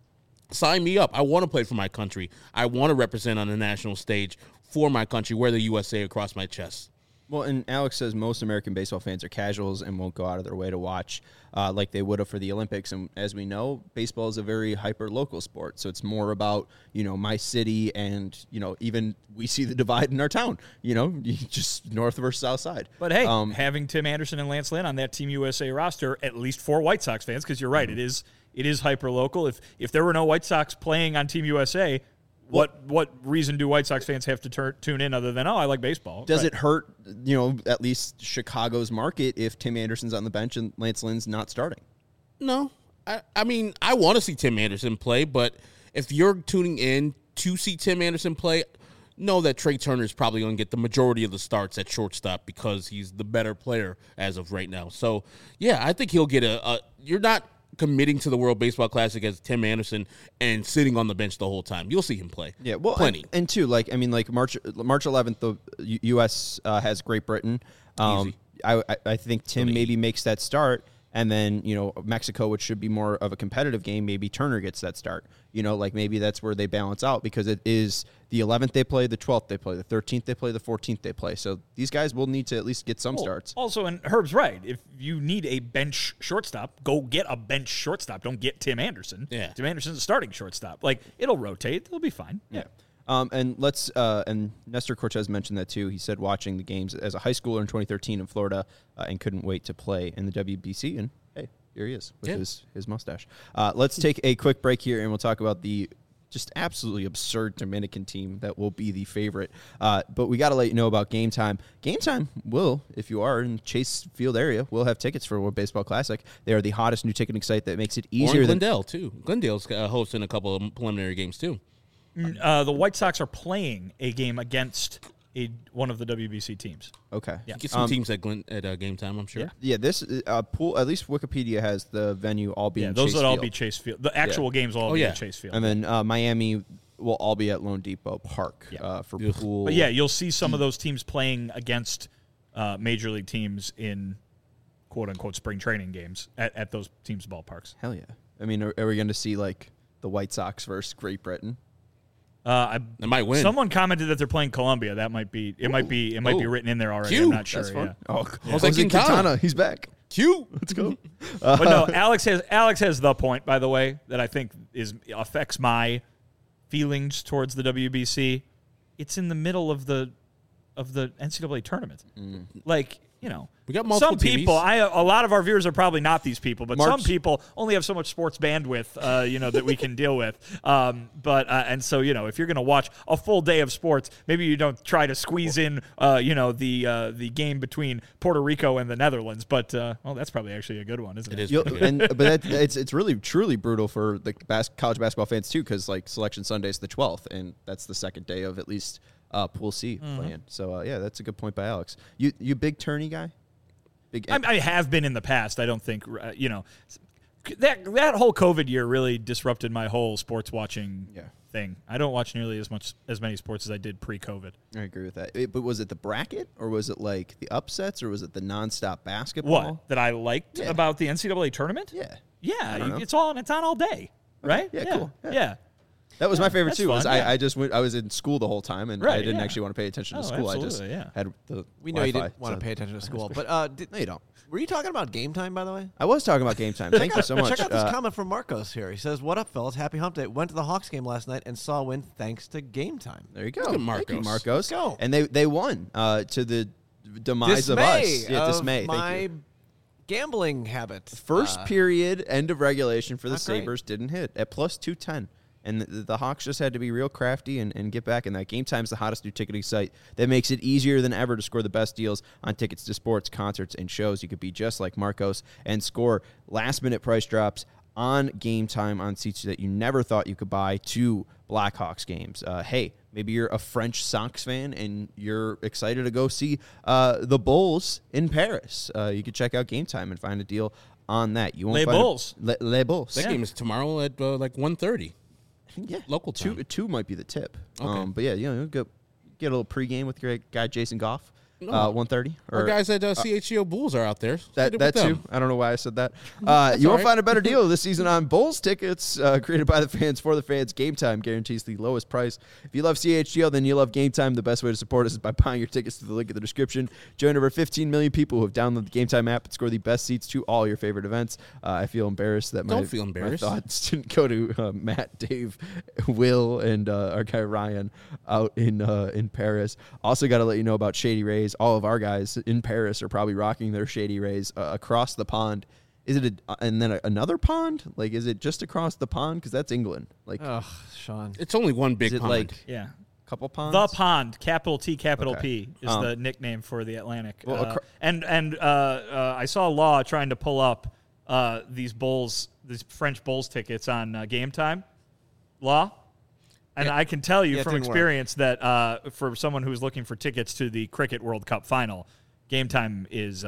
sign me up. I want to play for my country. I want to represent on the national stage for my country, wear the U S A across my chest. Well, and Alex says most American baseball fans are casuals and won't go out of their way to watch uh, like they would have for the Olympics. And as we know, baseball is a very hyper-local sport. So it's more about, you know, my city and, you know, even we see the divide in our town, you know, just north versus south side. But, hey, um, having Tim Anderson and Lance Lynn on that Team U S A roster, at least for White Sox fans, because you're right, mm-hmm. it is it is hyper-local. If, if there were no White Sox playing on Team U S A, What what reason do White Sox fans have to tur- tune in other than, oh, I like baseball? Does right. it hurt, you know, at least Chicago's market if Tim Anderson's on the bench and Lance Lynn's not starting? No. I, I mean, I want to see Tim Anderson play, but if you're tuning in to see Tim Anderson play, know that Trey Turner is probably going to get the majority of the starts at shortstop because he's the better player as of right now. So, yeah, I think he'll get a, a – you're not – committing to the World Baseball Classic as Tim Anderson and sitting on the bench the whole time. You'll see him play. Yeah, well, plenty. And, and two, like I mean, like March March eleventh, the U S uh, has Great Britain. Um, Easy. I, I I think Tim Go to maybe eight. makes that start, and then you know Mexico, which should be more of a competitive game, maybe Turner gets that start. You know, like maybe that's where they balance out because it is the eleventh they play, the twelfth they play, the thirteenth they play, the fourteenth they play. So these guys will need to at least get some Well, starts. Also, and Herb's right. If you need a bench shortstop, go get a bench shortstop. Don't get Tim Anderson. Yeah. Tim Anderson's a starting shortstop. Like, it'll rotate. It'll be fine. Yeah. Um, and let's uh, and Nestor Cortez mentioned that too. He said watching the games as a high schooler in twenty thirteen in Florida uh, and couldn't wait to play in the W B C. And hey, here he is with Yeah. his his mustache. Uh, let's take a quick break here, and we'll talk about the just absolutely absurd Dominican team that will be the favorite. Uh, but we got to let you know about Game Time. Game Time will, if you are in Chase Field area, will have tickets for World Baseball Classic. They are the hottest new ticketing site that makes it Or easier in than Glendale, too. Glendale's uh, hosting a couple of preliminary games, too. Uh, the White Sox are playing a game against a one of the W B C teams. okay. Yeah. Get some Um, teams at, Glen, at uh, game time, I'm sure. Yeah. Yeah, this uh, pool. At least Wikipedia has the venue all being Yeah, those Chase would all Field. be Chase Field. The actual games will all Oh, be yeah. at Chase Field. And then uh, Miami will all be at Lone Depot Park Yeah. uh, for Ugh. pool. But yeah, you'll see some of those teams playing against uh, major league teams in quote unquote spring training games at, at those teams' ballparks. Hell yeah. I mean, are, are we going to see like the White Sox versus Great Britain? Uh, I, They might win. Someone commented that they're playing Colombia. That might be it. Might be it might be Ooh. written in there already. Cute. I'm not sure. That's fun. Yeah. Oh, Jose Jose Quintana. Quintana, he's back. Cute. Let's go. But no, Alex has Alex has the point, by the way, that I think is affects my feelings towards the W B C. It's in the middle of the of the N C double A tournament. Like, you know, We got multiple some people. T Vs. I a lot of our viewers are probably not these people, but March- some people only have so much sports bandwidth, uh, you know, that we can deal with. Um, but uh, and so you know, if you're going to watch a full day of sports, maybe you don't try to squeeze in, uh, you know, the uh, the game between Puerto Rico and the Netherlands. But uh, well, that's probably actually a good one, isn't it? It is. You'll, pretty good. and but that, it's it's really truly brutal for the bas- college basketball fans too, because like Selection Sunday is the twelfth, and that's the second day of at least uh, Pool C Mm-hmm. playing. So uh, yeah, that's a good point by Alex. You you big tourney guy? Big. I, I have been in the past. I don't think uh, you know that that whole COVID year really disrupted my whole sports watching Yeah. thing. I don't watch nearly as much as many sports as I did pre-COVID. I agree with that. It- but was it the bracket, or was it like the upsets, or was it the nonstop basketball? What that I liked Yeah. about the N C double A tournament? Yeah. Yeah, don't you, know. it's on. It's on all day, right? Yeah, yeah. cool. Yeah. Yeah. That was my favorite that's too. Was fun, I, yeah. I just went. I was in school the whole time, and I Right, didn't yeah. actually want to pay attention to Oh, school. I just absolutely, yeah. had the. We know you Wi-Fi, didn't want so- to pay attention to school, but uh, did, No, you don't. were you talking about game time, by the way? I was talking about game time. Thank you so much. Check out this Uh, comment from Marcos here. He says, "What up, fellas? Happy Hump Day. Went to the Hawks game last night and saw a win thanks to game time." There you go. Look at Thank you, Marcos. Marcos. Let's go. And they they won uh, to the demise Dismay of us. Yeah, of dismay. Thank my you. gambling habit. First Uh, period, end of regulation for the not great. Sabres didn't hit at plus two ten. And the, the Hawks just had to be real crafty and, and get back in that. Game Time's the hottest new ticketing site that makes it easier than ever to score the best deals on tickets to sports, concerts, and shows. You could be just like Marcos and score last-minute price drops on Game Time on seats that you never thought you could buy to Blackhawks games. Uh, hey, maybe you're a French Sox fan and you're excited to go see uh, the Bulls in Paris. Uh, you could check out Game Time and find a deal on that. You won't Les find a- Bulls. Le, Les Bulls. That game is tomorrow at uh, like one thirty. Yeah, Local two time. two might be the tip. Okay. Um, but yeah, you know, go get a little pregame with your guy Jason Goff. No. Uh, one thirty. Our guys at uh, C H G O Bulls are out there. So That, get it that with too. them. I don't know why I said that. Uh, you all won't right. find a better deal this season on Bulls tickets uh, created by the fans for the fans. Game Time guarantees the lowest price. If you love C H G O, then you love Game Time. The best way to support us is by buying your tickets through the link in the description. Join over fifteen million people who have downloaded the Game Time app and score the best seats to all your favorite events. Uh, I feel embarrassed that my, Don't feel embarrassed. my thoughts didn't go to uh, Matt, Dave, Will, and uh, our guy Ryan out in uh, in Paris. Also got to let you know about Shady Rays. All of our guys in Paris are probably rocking their Shady Rays uh, across the pond. Is it a, and then a, another pond? Like, is it just across the pond? Because that's England. Like, Ugh, Sean. It's only one big is it pond. like Yeah. a couple ponds? The Pond, capital T, capital Okay. P, is Um, the nickname for the Atlantic. well, Uh, acro- and and uh, uh, I saw Law trying to pull up uh, these Bulls, these French Bulls tickets on uh, Game Time. Law, and I can tell you Yeah, it from didn't work. experience that uh, for someone who's looking for tickets to the Cricket World Cup final, Game Time is uh,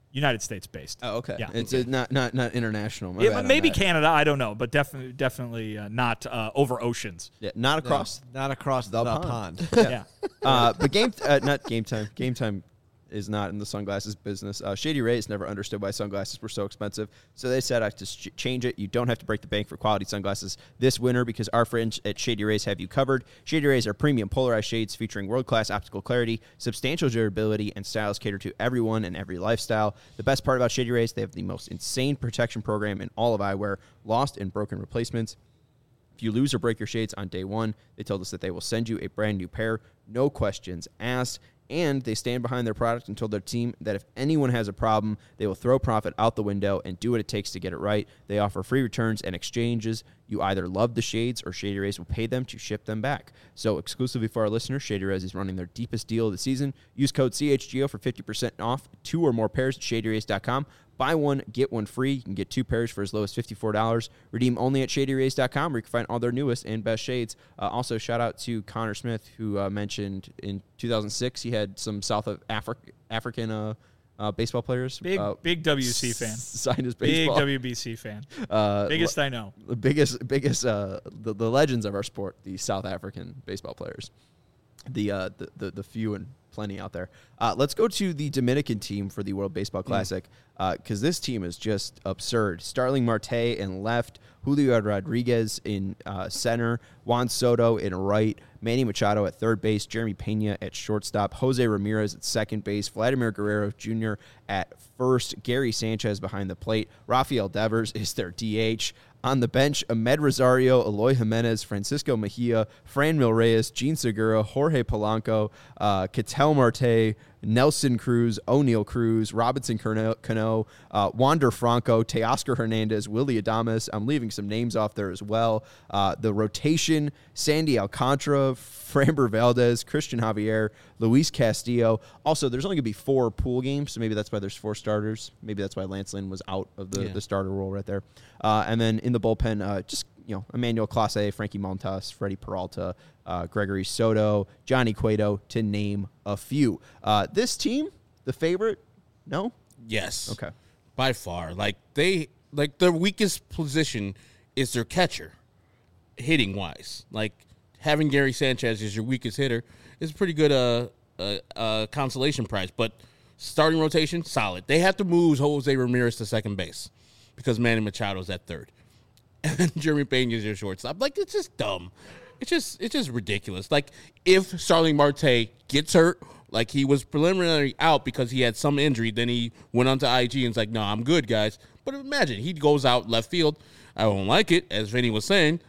United States based. Oh, okay. Yeah. It's uh, not not not international. My Yeah, bad on maybe that. Canada, I don't know, but definitely definitely uh, not uh, over oceans. Yeah, not across. No, not across the, the pond. pond. Yeah. uh, but game uh, not game time. Game time is not in the sunglasses business. Uh, Shady Rays never understood why sunglasses were so expensive, so they said I have to sh- change it. You don't have to break the bank for quality sunglasses this winter because our friends at Shady Rays have you covered. Shady Rays are premium polarized shades featuring world-class optical clarity, substantial durability, and styles cater to everyone and every lifestyle. The best part about Shady Rays, they have the most insane protection program in all of eyewear, lost and broken replacements. If you lose or break your shades on day one, they told us that they will send you a brand new pair, no questions asked. And they stand behind their product and told their team that if anyone has a problem, they will throw profit out the window and do what it takes to get it right. They offer free returns and exchanges. You either love the shades or Shady Rays will pay them to ship them back. So exclusively for our listeners, Shady Rays is running their deepest deal of the season. Use code C H G O for fifty percent off two or more pairs at shady rays dot com. Buy one, get one free. You can get two pairs for as low as fifty-four dollars. Redeem only at shady rays dot com where you can find all their newest and best shades. Uh, also, shout out to Connor Smith, who uh, mentioned in two thousand six he had some South of Afri- African uh, uh, baseball players. Big uh, big W C fan. Signed his Big baseball. W B C fan. Uh, Biggest I know. the biggest, biggest, uh, the, the legends of our sport, the South African baseball players, the uh, the, the the few and plenty out there. Uh, let's go to the Dominican team for the World Baseball Classic because uh, this team is just absurd. Starling Marte in left, Julio Rodriguez in uh, center, Juan Soto in right, Manny Machado at third base, Jeremy Pena at shortstop, Jose Ramirez at second base, Vladimir Guerrero Junior at first, Gary Sanchez behind the plate, Rafael Devers is their D H. On the bench, Ahmed Rosario, Eloy Jimenez, Francisco Mejia, Franmil Reyes, Gene Segura, Jorge Polanco, uh, Ketel Marte, Nelson Cruz, O'Neal Cruz, Robinson Cano, uh, Wander Franco, Teoscar Hernandez, Willie Adames. I'm leaving some names off there as well. Uh, the rotation, Sandy Alcantara, Framber Valdez, Christian Javier, Luis Castillo. Also, there's only going to be four pool games, so maybe that's why there's four starters. Maybe that's why Lance Lynn was out of the, Yeah. the starter role right there. Uh, and then in the bullpen, uh, just, you know, Emmanuel Clase, Frankie Montas, Freddie Peralta, uh, Gregory Soto, Johnny Cueto, to name a few. Uh, this team, the favorite? No? Yes. Okay. By far. Like they like their weakest position is their catcher, hitting wise. Like having Gary Sanchez as your weakest hitter is a pretty good uh, uh, uh consolation prize. But starting rotation, solid. They have to move Jose Ramirez to second base because Manny Machado's at third. And Jeremy Pena is your shortstop. Like, it's just dumb. It's just it's just ridiculous. Like, if Starling Marte gets hurt, like he was preliminarily out because he had some injury, then he went onto I G and was like, no, I'm good, guys. But imagine, he goes out left field. I don't like it, as Vinny was saying.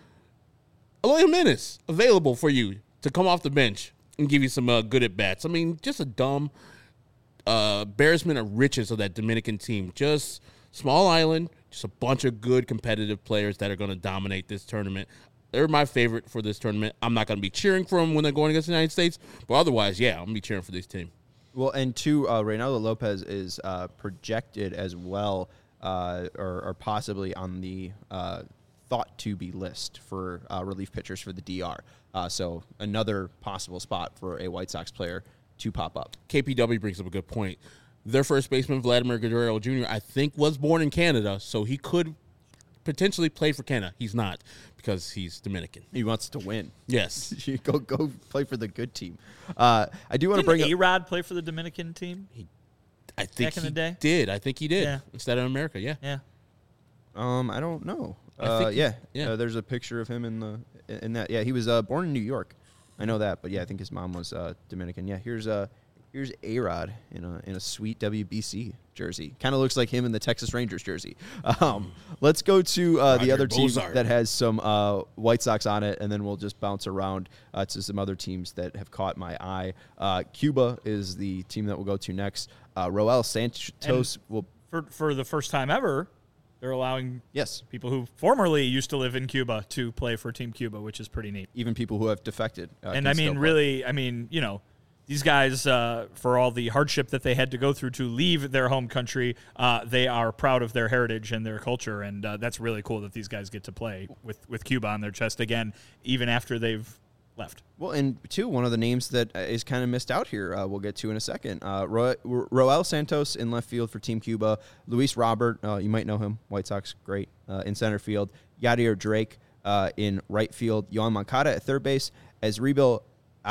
Eloy Jimenez, available for you to come off the bench and give you some uh, good at-bats. I mean, just a dumb uh, embarrassment of riches of that Dominican team. Just small island, just a bunch of good competitive players that are going to dominate this tournament. They're my favorite for this tournament. I'm not going to be cheering for them when they're going against the United States, but otherwise, yeah, I'm going to be cheering for this team. Well, and two, uh, Reynaldo Lopez is uh, projected as well, uh, or, or possibly on the uh, thought-to-be list for uh, relief pitchers for the D R. Uh, so another possible spot for a White Sox player to pop up. K P W brings up a good point. Their first baseman, Vladimir Guerrero Junior, I think was born in Canada, so he could potentially play for Canada. He's not because he's Dominican. He wants to win. Yes. You go go play for the good team. Uh, I do want to bring Didn't up. A-Rod play for the Dominican team? I think Back in he the day? did. I think he did. Yeah. Instead of America, yeah. Yeah. Um, I don't know. I Uh, think he- yeah, yeah. Uh, there's a picture of him in the in that. Yeah, he was uh, born in New York. I know that, but yeah, I think his mom was uh, Dominican. Yeah, here's uh, here's A-Rod in a in a sweet W B C jersey. Kind of looks like him in the Texas Rangers jersey. Um, let's go to uh, the Roger other team Bozart. that has some uh, White Sox on it, and then we'll just bounce around uh, to some other teams that have caught my eye. Uh, Cuba is the team that we'll go to next. Uh, Roel Santos will. For for the first time ever, they're allowing Yes, people who formerly used to live in Cuba to play for Team Cuba, which is pretty neat. even people who have defected. Uh, And can I still mean, play. really, I mean, you know, these guys, uh, for all the hardship that they had to go through to leave their home country, uh, they are proud of their heritage and their culture, and uh, that's really cool that these guys get to play with, with Cuba on their chest again, even after they've left. Well, and two, one of the names that is kind of missed out here, uh, we'll get to in a second. Uh, Ro- Roel Santos in left field for Team Cuba. Luis Robert, uh, you might know him, White Sox, great, uh, in center field. Yadier Drake uh, in right field. Yohan Moncada at third base. Asriel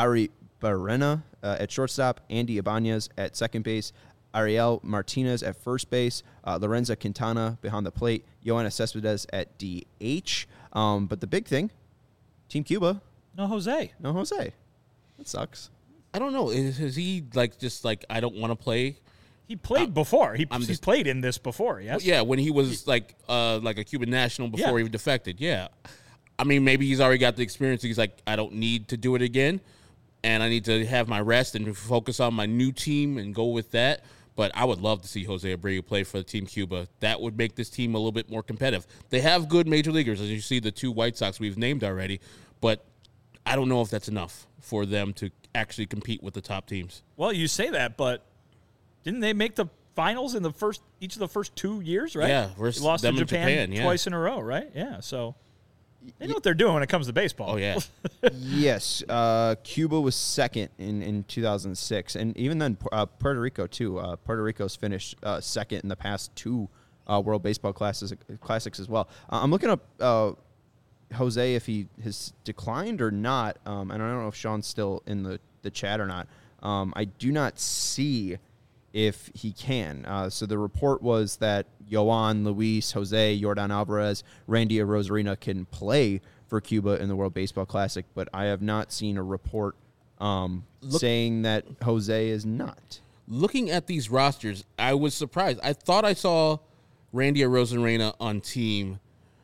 Aribarena uh, at shortstop. Andy Ibanez at second base. Ariel Martinez at first base. Uh, Lorenzo Quintana behind the plate. Yoenis Cespedes at D H. Um, but the big thing, Team Cuba, No Jose. no Jose. That sucks. I don't know. Is, is he like just like I don't want to play? He played before. He, I'm he just- played in this before, yes? Yeah, when he was like uh like a Cuban national before Yeah. he defected. Yeah, I mean maybe he's already got the experience. He's like I don't need to do it again, and I need to have my rest and focus on my new team and go with that. But I would love to see Jose Abreu play for Team Cuba. That would make this team a little bit more competitive. They have good major leaguers, as you see the two White Sox we've named already, but I don't know if that's enough for them to actually compete with the top teams. Well, you say that, but didn't they make the finals in the first each of the first two years, right? Yeah, versus They lost them to in Japan, Japan, yeah. twice in a row, right? Yeah, so they know what they're doing when it comes to baseball. Oh, yeah. Yes, uh, Cuba was second in, in two thousand six, and even then, uh, Puerto Rico too. Uh, Puerto Rico's finished uh, second in the past two uh, World Baseball classes, Classics as well. Uh, I'm looking up uh, Jose if he has declined or not, um, and I don't know if Sean's still in the, the chat or not. Um, I do not see if he can. Uh, so the report was that Yohan, Luis, Jose, Yordan Alvarez, Randy Arozarena can play for Cuba in the World Baseball Classic, but I have not seen a report um, saying that Jose is not. Looking at these rosters, I was surprised. I thought I saw Randy Arozarena on Team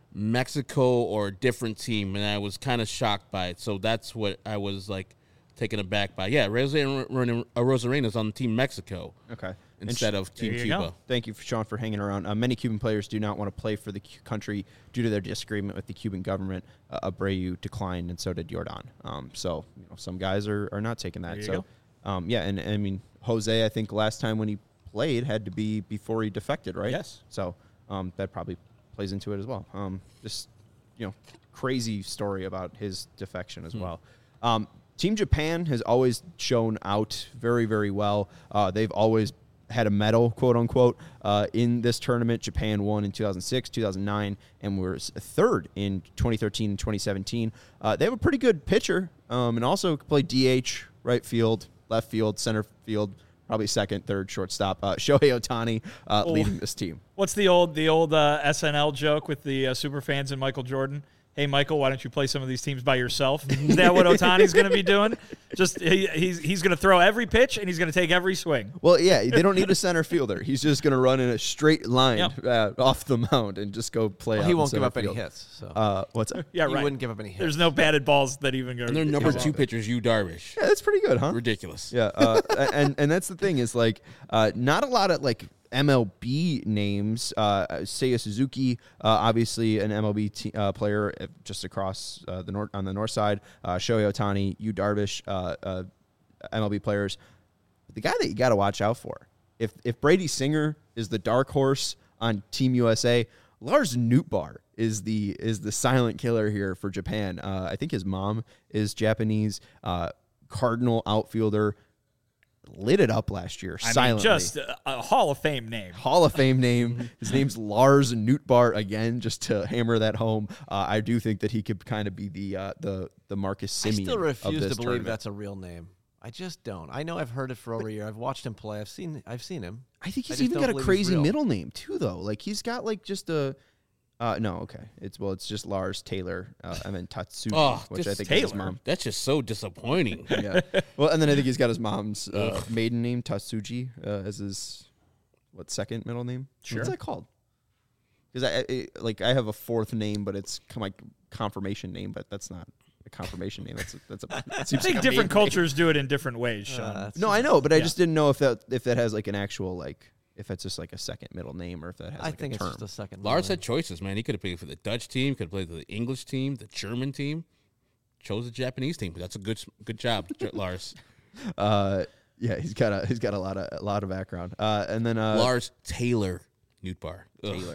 Mexico or a different team, and I was kind of shocked by it. So that's what I was like taken aback by. Yeah, Arozarena is on Team Mexico. Okay. Instead And of Team There you Cuba. go. Thank you, for Sean, for hanging around. Uh, many Cuban players do not want to play for the cu- country due to their disagreement with the Cuban government. Uh, Abreu declined, and so did Yordan. Um, so, you know, some guys are, are not taking that. There you So, um, yeah, and, and I mean, Jose, I think last time when he played had to be before he defected, right? Yes. So um, that probably plays into it as well. Um, just, you know, crazy story about his defection as Hmm. well. Um, Team Japan has always shown out very, very well. Uh, they've always had a medal, quote unquote, uh, in this tournament. Japan won in two thousand six, two thousand nine, and was third in twenty thirteen and twenty seventeen. Uh, they have a pretty good pitcher, um, and also play D H, right field, left field, center field, probably second, third, shortstop. Uh, Shohei Ohtani uh, Oh. leading this team. What's the old the old uh, S N L joke with the uh, super fans and Michael Jordan? Hey, Michael, why don't you play some of these teams by yourself? Is that what Otani's going to be doing? Just he, he's he's going to throw every pitch and he's going to take every swing. Well, yeah, they don't need a center fielder. He's just going to run in a straight line Yep. uh, off the mound and just go play. Well, out he in won't give center up any field. hits. So Uh, what's that? Yeah, he right. wouldn't give up any hits. There's no batted balls that even go. And their number go two out. pitcher is Yu Darvish. Yeah, that's pretty good, huh? Ridiculous. Yeah, uh, and and that's the thing is like uh, not a lot of like M L B names. Uh, Seiya Suzuki, uh, obviously an M L B te- uh, player just across uh, the north on the north side. Uh, Shohei Ohtani, Yu Darvish, uh, uh, M L B players. But the guy that you got to watch out for, if if Brady Singer is the dark horse on Team U S A, Lars Nootbaar is the is the silent killer here for Japan. Uh, I think his mom is Japanese. Uh, Cardinal outfielder. Lit it up last year I mean, silently. just a, a Hall of Fame name. Hall of Fame name. His name's Lars Nootbaar again, just to hammer that home. Uh, I do think that he could kind of be the uh, the the Marcus I Semien. still of refuse this to believe tournament. that's a real name. I just don't. I know I've heard it for over a year. I've watched him play. I've seen. I've seen him. I think I he's just even don't got a believe he's crazy real. middle name too, though. Like he's got like just a. Uh, no, okay. It's well, it's just Lars Taylor, uh, and then Tatsuji, Oh, which I just think is his Taylor. mom. That's just so disappointing. Yeah. Well, and then I think he's got his mom's uh, maiden name, Tatsuji, uh, as his what second middle name? Sure. What's that called? Because I, I like I have a fourth name, but it's kind of like confirmation name, but that's not a confirmation name. That's a, that's a. That I seems think like a different maiden name. cultures do it in different ways, Sean. Uh, that's- No, I know, but I Yeah. just didn't know if that if that has like an actual like if it's just like a second middle name or if that has I like think a it's term. just a second. Lars name. had choices, man. He could have played for the Dutch team, could have played for the English team, the German team. Chose the Japanese team. But that's a good good job, Lars. uh, yeah, he's got a he's got a lot of a lot of background. Uh, and then uh, Lars Taylor Nootbaar. Ugh. Taylor.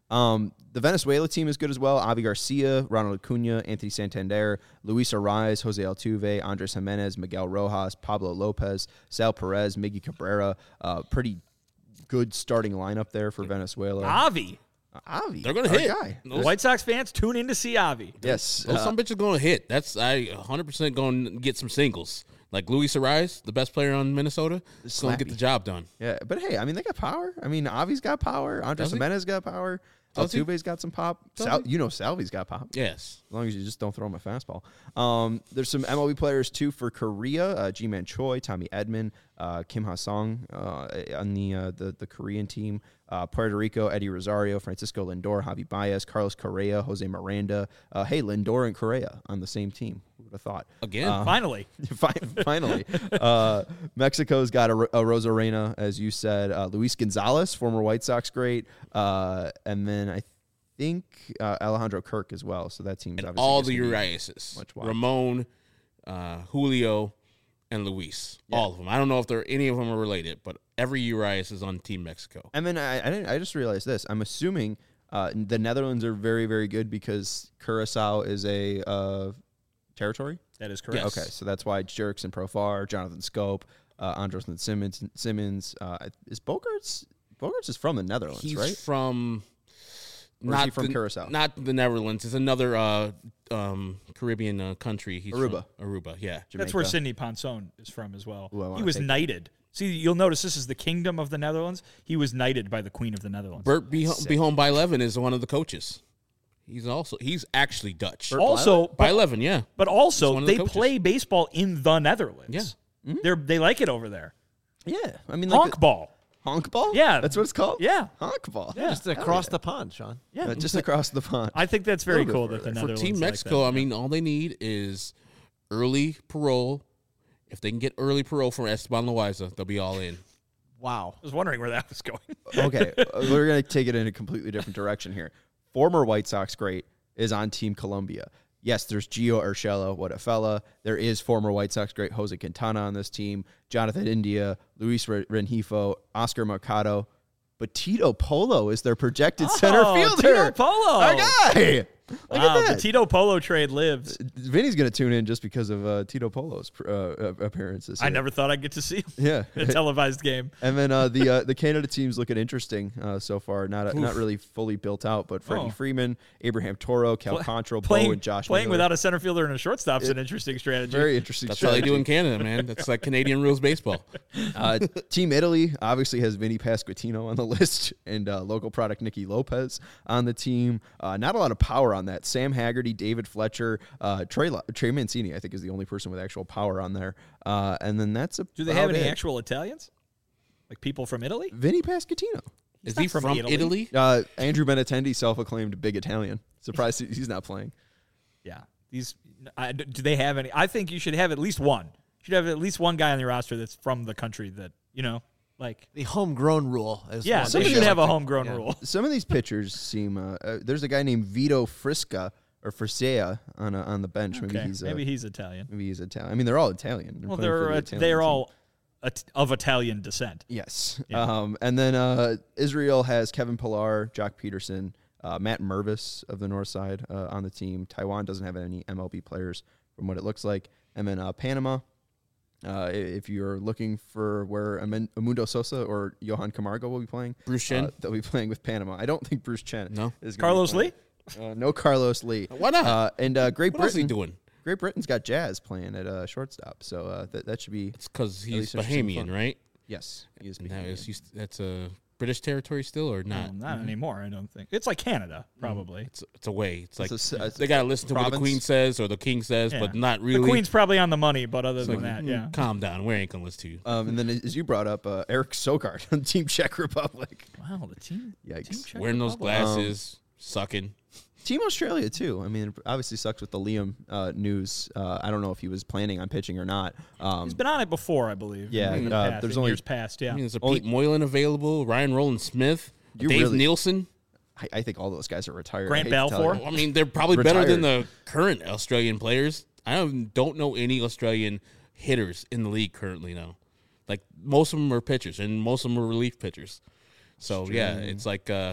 Um, the Venezuela team is good as well. Avi Garcia, Ronald Acuna, Anthony Santander, Luis Arraez, Jose Altuve, Andres Jimenez, Miguel Rojas, Pablo Lopez, Sal Perez, Miggy Cabrera. Uh, pretty good starting lineup there for Venezuela. Avi. Uh, Avi. They're going to our hit. guy. Those, White Sox fans, tune in to see Avi. Yes. those uh, some bitches going to hit. That's I one hundred percent going to get some singles. Like Luis Arraez, the best player on Minnesota, is going to get Slappy. the job done. yeah, but hey, I mean, they got power. I mean, Avi's got power. Andres Does he? Jimenez got power. Does he? Altuve's got some pop. Does Sal, he? you know Salvi's got pop. Yes. As long as you just don't throw him a fastball. Um, there's some M L B players, too, for Korea. Uh, Ji-Man Choi, Tommy Edman, uh, Kim Ha-sung uh, on the, uh, the the Korean team. Uh, Puerto Rico, Eddie Rosario, Francisco Lindor, Javi Baez, Carlos Correa, Jose Miranda. Uh, hey, Lindor and Correa on the same team. Who would have thought? Again. Uh, Finally. Fi- Finally. uh, Mexico's got a, a Rosarena, as you said. Uh, Luis Gonzalez, former White Sox great. Uh, and then I think uh, Alejandro Kirk as well. So that team's And obviously all just the gonna be Uriases. much wild. Ramon, uh, Julio, and Luis. Yeah. All of them. I don't know if they're any of them are related, but every Urias is on Team Mexico. And then I, I, didn't, I just realized this. I'm assuming uh, the Netherlands are very, very good because Curacao is a uh, territory. That is correct. Yes. Okay, so that's why Jerks and Profar, Jonathan Scope, uh, Andros and Simmons. Simmons uh, is Bogarts. Bogarts is from the Netherlands, He's right? from Or is not he from the, Curacao? Not the Netherlands. It's another uh, um, Caribbean uh, country. He's Aruba. From Aruba, yeah. That's where Jamaica. Sidney Ponson is from as well. Ooh, I wanna he was take that. knighted. See, you'll notice this is the Kingdom of the Netherlands. He was knighted by the Queen of the Netherlands. Bert Be, Be Home by Eleven is one of the coaches. He's also he's actually Dutch. Bert also, By but, Eleven, yeah. but He's also one of the they coaches. play baseball in the Netherlands. Yeah. They're they like it over there. Yeah, I mean, like Honk the- ball. honk ball. Yeah. that's what it's called. Yeah. honk ball. Yeah. Just across the pond, Sean. Yeah, Uh, just across the pond. I think that's very little bit cool that the further. For For Netherlands Team like Mexico, that. I mean, all they need is early parole. If they can get early parole from Esteban Loaiza, they'll be all in. Wow. I was wondering where that was going. Okay, uh, we're gonna take it in a completely different direction here. Former White Sox great is on Team Colombia. Yes, there's Gio Urshela, what a fella. There is former White Sox great Jose Quintana on this team, Jonathan India, Luis Re- Rengifo, Oscar Mercado, but Tito Polo is their projected center Oh, fielder. Tito Polo. our guy. Look Wow, at the that. Tito Polo trade lives. Vinny's gonna tune in just because of uh, Tito Polo's uh, appearances. I here. never thought I'd get to see him Yeah. in a televised game. And then uh, the uh, the Canada team's looking interesting uh, so far. Not not really fully built out, but Freddie Oh. Freeman, Abraham Toro, Cal Control, Bo, Playing, and Josh playing Miller. without a center fielder and a shortstop is an interesting strategy. Very interesting. That's how they strategy. do in Canada, man. That's like Canadian rules baseball. Uh, Team Italy obviously has Vinny Pasquantino on the list and uh, local product Nicky Lopez on the team. Uh, not a lot of power on that. Sam Haggerty, David Fletcher, uh, Trey, Lo- Trey Mancini, I think, is the only person with actual power on there. Uh, and then that's a. Do they have any actual Italians? Like people from Italy? Vinny Pasquantino. Is not he from from, Italy. Italy? Uh, Andrew Benintendi, self-acclaimed big Italian. Surprised he- he's not playing. Yeah. These I, do they have any? I think you should have at least one. You should have at least one guy on the roster that's from the country that, you know, like The homegrown rule is yeah, one they thing. should have a Like, homegrown yeah. rule. Some of these pitchers seem. Uh, uh, there's a guy named Vito Frisca or Frisea on uh, on the bench. Maybe Okay, he's uh, maybe he's Italian. maybe he's Italian. I mean, they're all Italian. Well, playing for they're the uh, Italian they're team. all at, of Italian descent. Yes. Yeah. Um, and then uh, Israel has Kevin Pillar, Jock Peterson, uh, Matt Mervis of the North Side uh, on the team. Taiwan doesn't have any M L B players from what it looks like. And then uh, Panama. Uh, i- if you're looking for where Amen- Amundo Sosa or Johan Camargo will be playing, Bruce Chen? uh, they'll be playing with Panama. I don't think Bruce Chen. No. is gonna be Carlos playing. Lee? Uh, no Carlos Lee. Why not? Uh, and uh, Great What else is he Britain. doing? Great Britain's got Jazz playing at uh, shortstop, so uh, th- that should be It's because he's least there's some Bahamian, fun. right? yes. He is And that Bahamian. is, used- that's a British territory still or not? Well, not anymore, I don't think. It's like Canada, Mm. probably. It's it's a way. It's like a s- it's they a got to listen to what the province. queen says or the king says, Yeah. but not really. The Queen's probably on the money, but other than like, that, mm, yeah. Calm down. We ain't gonna listen to you. Um, and then, as you brought up, uh, Eric Sogard on Team Czech Republic. Wow, the team. Yikes. Team Czech Wearing those Republic. glasses, sucking. Team Australia, too. I mean, it obviously sucks with the Liam uh, news. Uh, I don't know if he was planning on pitching or not. Um, He's been on it before, I believe. Yeah, in the uh, past, there's in only- years past. Yeah, I mean, there's a Only- Pete Moylan available, Ryan Roland Smith, You Dave really- Nielsen. I, I think all those guys are retired. Grant I hate to tell Balfour? you. I mean, they're probably better than Retired. the current Australian players. I don't, don't know any Australian hitters in the league currently now. Like, most of them are pitchers, and most of them are relief pitchers. So, yeah, it's like uh,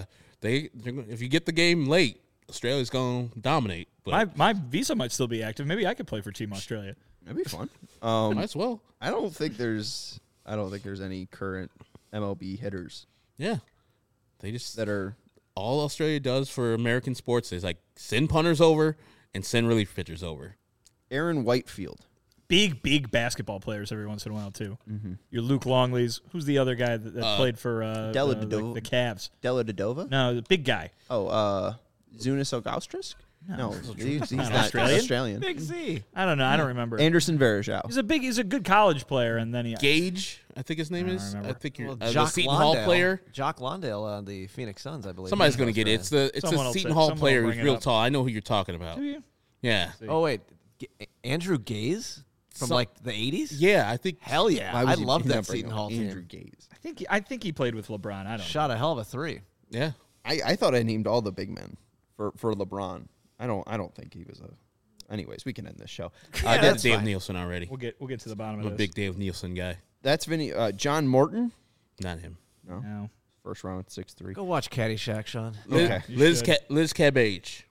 they if you get the game late, Australia's going to dominate. But My my visa might still be active. Maybe I could play for Team Australia. That'd be fun. Um, might as well. I don't think there's. I don't think there's any current M L B hitters Yeah, they just that are. all Australia does for American sports is like send punters over and send relief pitchers over. Aaron Whitefield. Big, big basketball players every once in a while, too. Mm-hmm. Your Luke Longleys. Who's the other guy that, that Uh, played for uh, Della uh, the, Dodova. the Cavs? Della Dodova? No, the big guy. Oh, uh, Zunis Ogaustris? No, he's, he's not Australian. Australian. Big Z. I don't know. I don't remember. Anderson Varejao. He's a big. He's a good college player, and then he. Gage, I think his name I don't is. I remember. think you're Well, uh, the Jock Seton Hall Londale- player. Jock Londale on the Phoenix Suns, I believe. Somebody's He's going to get it. It's the it's Someone the will Seton say- Hall someone will player bring who's it real up. tall. I know who you're talking about. Do you? Yeah, Oh wait, G- Andrew Gaze from So- like the eighties. yeah. I think Hell yeah, Why I was he- love he's that not bringing Seton up Hall Andrew team. Gaze. I think. He, I think he played with LeBron. I don't. Shot a hell of a three. yeah. I, I thought I named all the big men for, for LeBron. I don't I don't think he was a. Anyways, we can end this show. Uh, I did that's Dave fine. Nielsen already. We'll get. We'll get to the bottom I'm a of this. big Dave Nielsen guy. That's Vinny. Uh, John Morton. Not him. No, No. first round, six three. Go watch Caddyshack, Sean. Liz, Okay. You Liz, should. Ca- Liz Cabbage.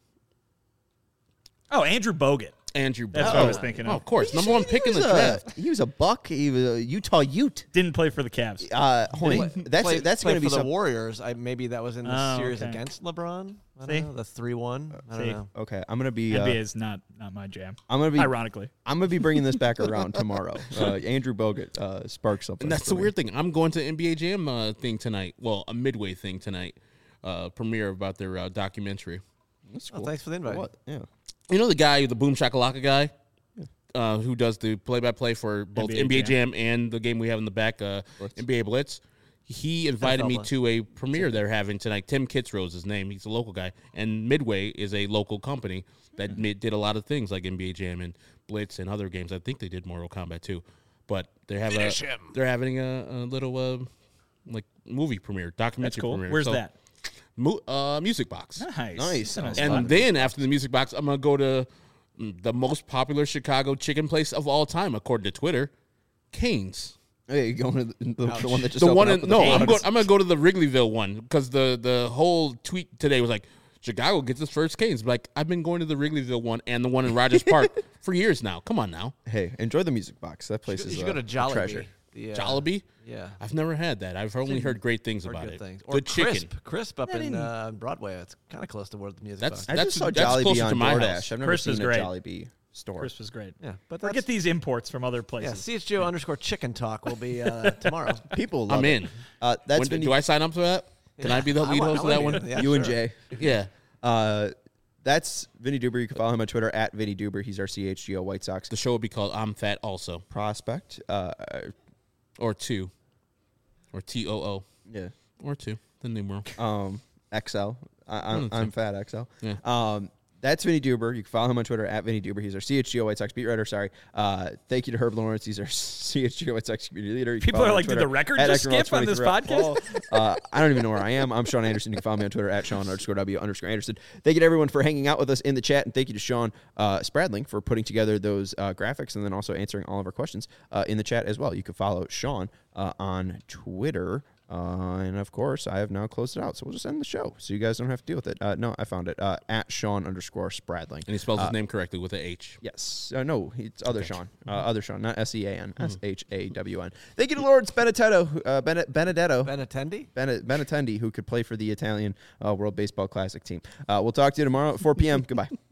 Oh, Andrew Bogut. Andrew. That's Bogut. what I was thinking Oh, of. of course, number one pick in the was a- draft. He was a buck. He was a Utah Ute. Didn't play for the Cavs. Uh, hold on. Play- that's play- that's play going to be for the some. Warriors. I maybe that was in the Oh, series okay. against LeBron. I don't See? know, the three one. I don't See? know. Okay, I'm going to be. N B A Uh, is not not my jam. I'm going to be. Ironically. I'm going to be bringing this back around tomorrow. Uh, Andrew Bogut uh, sparked something. And that's for the me. weird thing. I'm going to N B A Jam uh, thing tonight. Well, a midway thing tonight. Uh, premiere about their uh, documentary. That's Oh, cool. thanks for the invite. What? Yeah. You know the guy, the Boom Shakalaka guy, uh, who does the play-by-play for both N B A N B A Jam. Jam and the game we have in the back, uh, N B A Blitz. He invited N F L me Blitz. to a premiere they're having tonight. Tim Kitzrow his name. He's a local guy, and Midway is a local company that Mm-hmm. made, did a lot of things like N B A Jam and Blitz and other games. I think they did Mortal Kombat too, but they have a, they're having a, a little uh, like movie premiere, documentary That's cool. premiere. Where's So, that? Mu- uh, Music Box. Nice. Nice. That's a nice And spot. then after the Music Box, I'm gonna go to mm, the most popular Chicago chicken place of all time, according to Twitter, Cane's. Hey, you going to the, the, the one that just The opened one up in with no, the I'm Canes? going. I'm gonna go to the Wrigleyville one because the the whole tweet today was like Chicago gets its first Cane's. Like I've been going to the Wrigleyville one and the one in Rogers Park for years now. Come on now, Hey, enjoy the Music Box. That place You is should uh, go to a Jollibee. treasure. The, uh, Jollibee. Yeah. I've never had that. I've only heard great things Or about good it. things. Or Good chicken. Crisp. Crisp up That in didn't- uh, Broadway. It's kind of close to where the music That's- box. I That's- just saw that's Jollibee closer on to my DoorDash. house. I've never Crisp seen is a great. Jollibee store. Chris was great. Yeah, but Or that's, get these imports from other yeah, places. C H G O underscore chicken talk will be uh, tomorrow. People love I'm it. in. Uh, that's When, Vinny, do I sign up for that? Can I be the I lead want- host I of that want one? to be- yeah, you and sure. Jay. Yeah. Uh, that's Vinny Duber. You can follow him on Twitter at Vinny Duber. He's our C H G O White Sox The show would be called I'm Fat Also, prospect. Uh, or two, or T O O, yeah. or two, the numeral. Um, X L. I, I'm, Mm, I'm fat X L. Yeah. Um, that's Vinny Duber. You can follow him on Twitter at Vinny Duber. He's our C H G O White Sox beat writer. Sorry. Uh, thank you to Herb Lawrence. He's our C H G O White Sox community leader. You can People follow are him on like, did Twitter the record at just Eckermall skip on this twenty-three. uh, I don't even know where I am. I'm Sean Anderson. You can follow me on Twitter at Sean underscore W underscore Anderson. Thank you to everyone for hanging out with us in the chat. And thank you to Sean uh, Spradling for putting together those uh, graphics and then also answering all of our questions uh, in the chat as well. You can follow Sean uh, on Twitter. Uh, and of course, I have now closed it out, so we'll just end the show, so you guys don't have to deal with it. Uh, no, I found it uh, at Sean underscore Spradling. And he spells his name correctly with a H. Yes, uh, no, it's other Sean, uh, other Sean, not S E A N, Mm-hmm. S H A W N. Thank you to Lawrence Benedetto, uh, Bene- Benedetto, Benatendi? Bene- Benatendi, who could play for the Italian uh, World Baseball Classic team. Uh, we'll talk to you tomorrow at four p.m. Goodbye.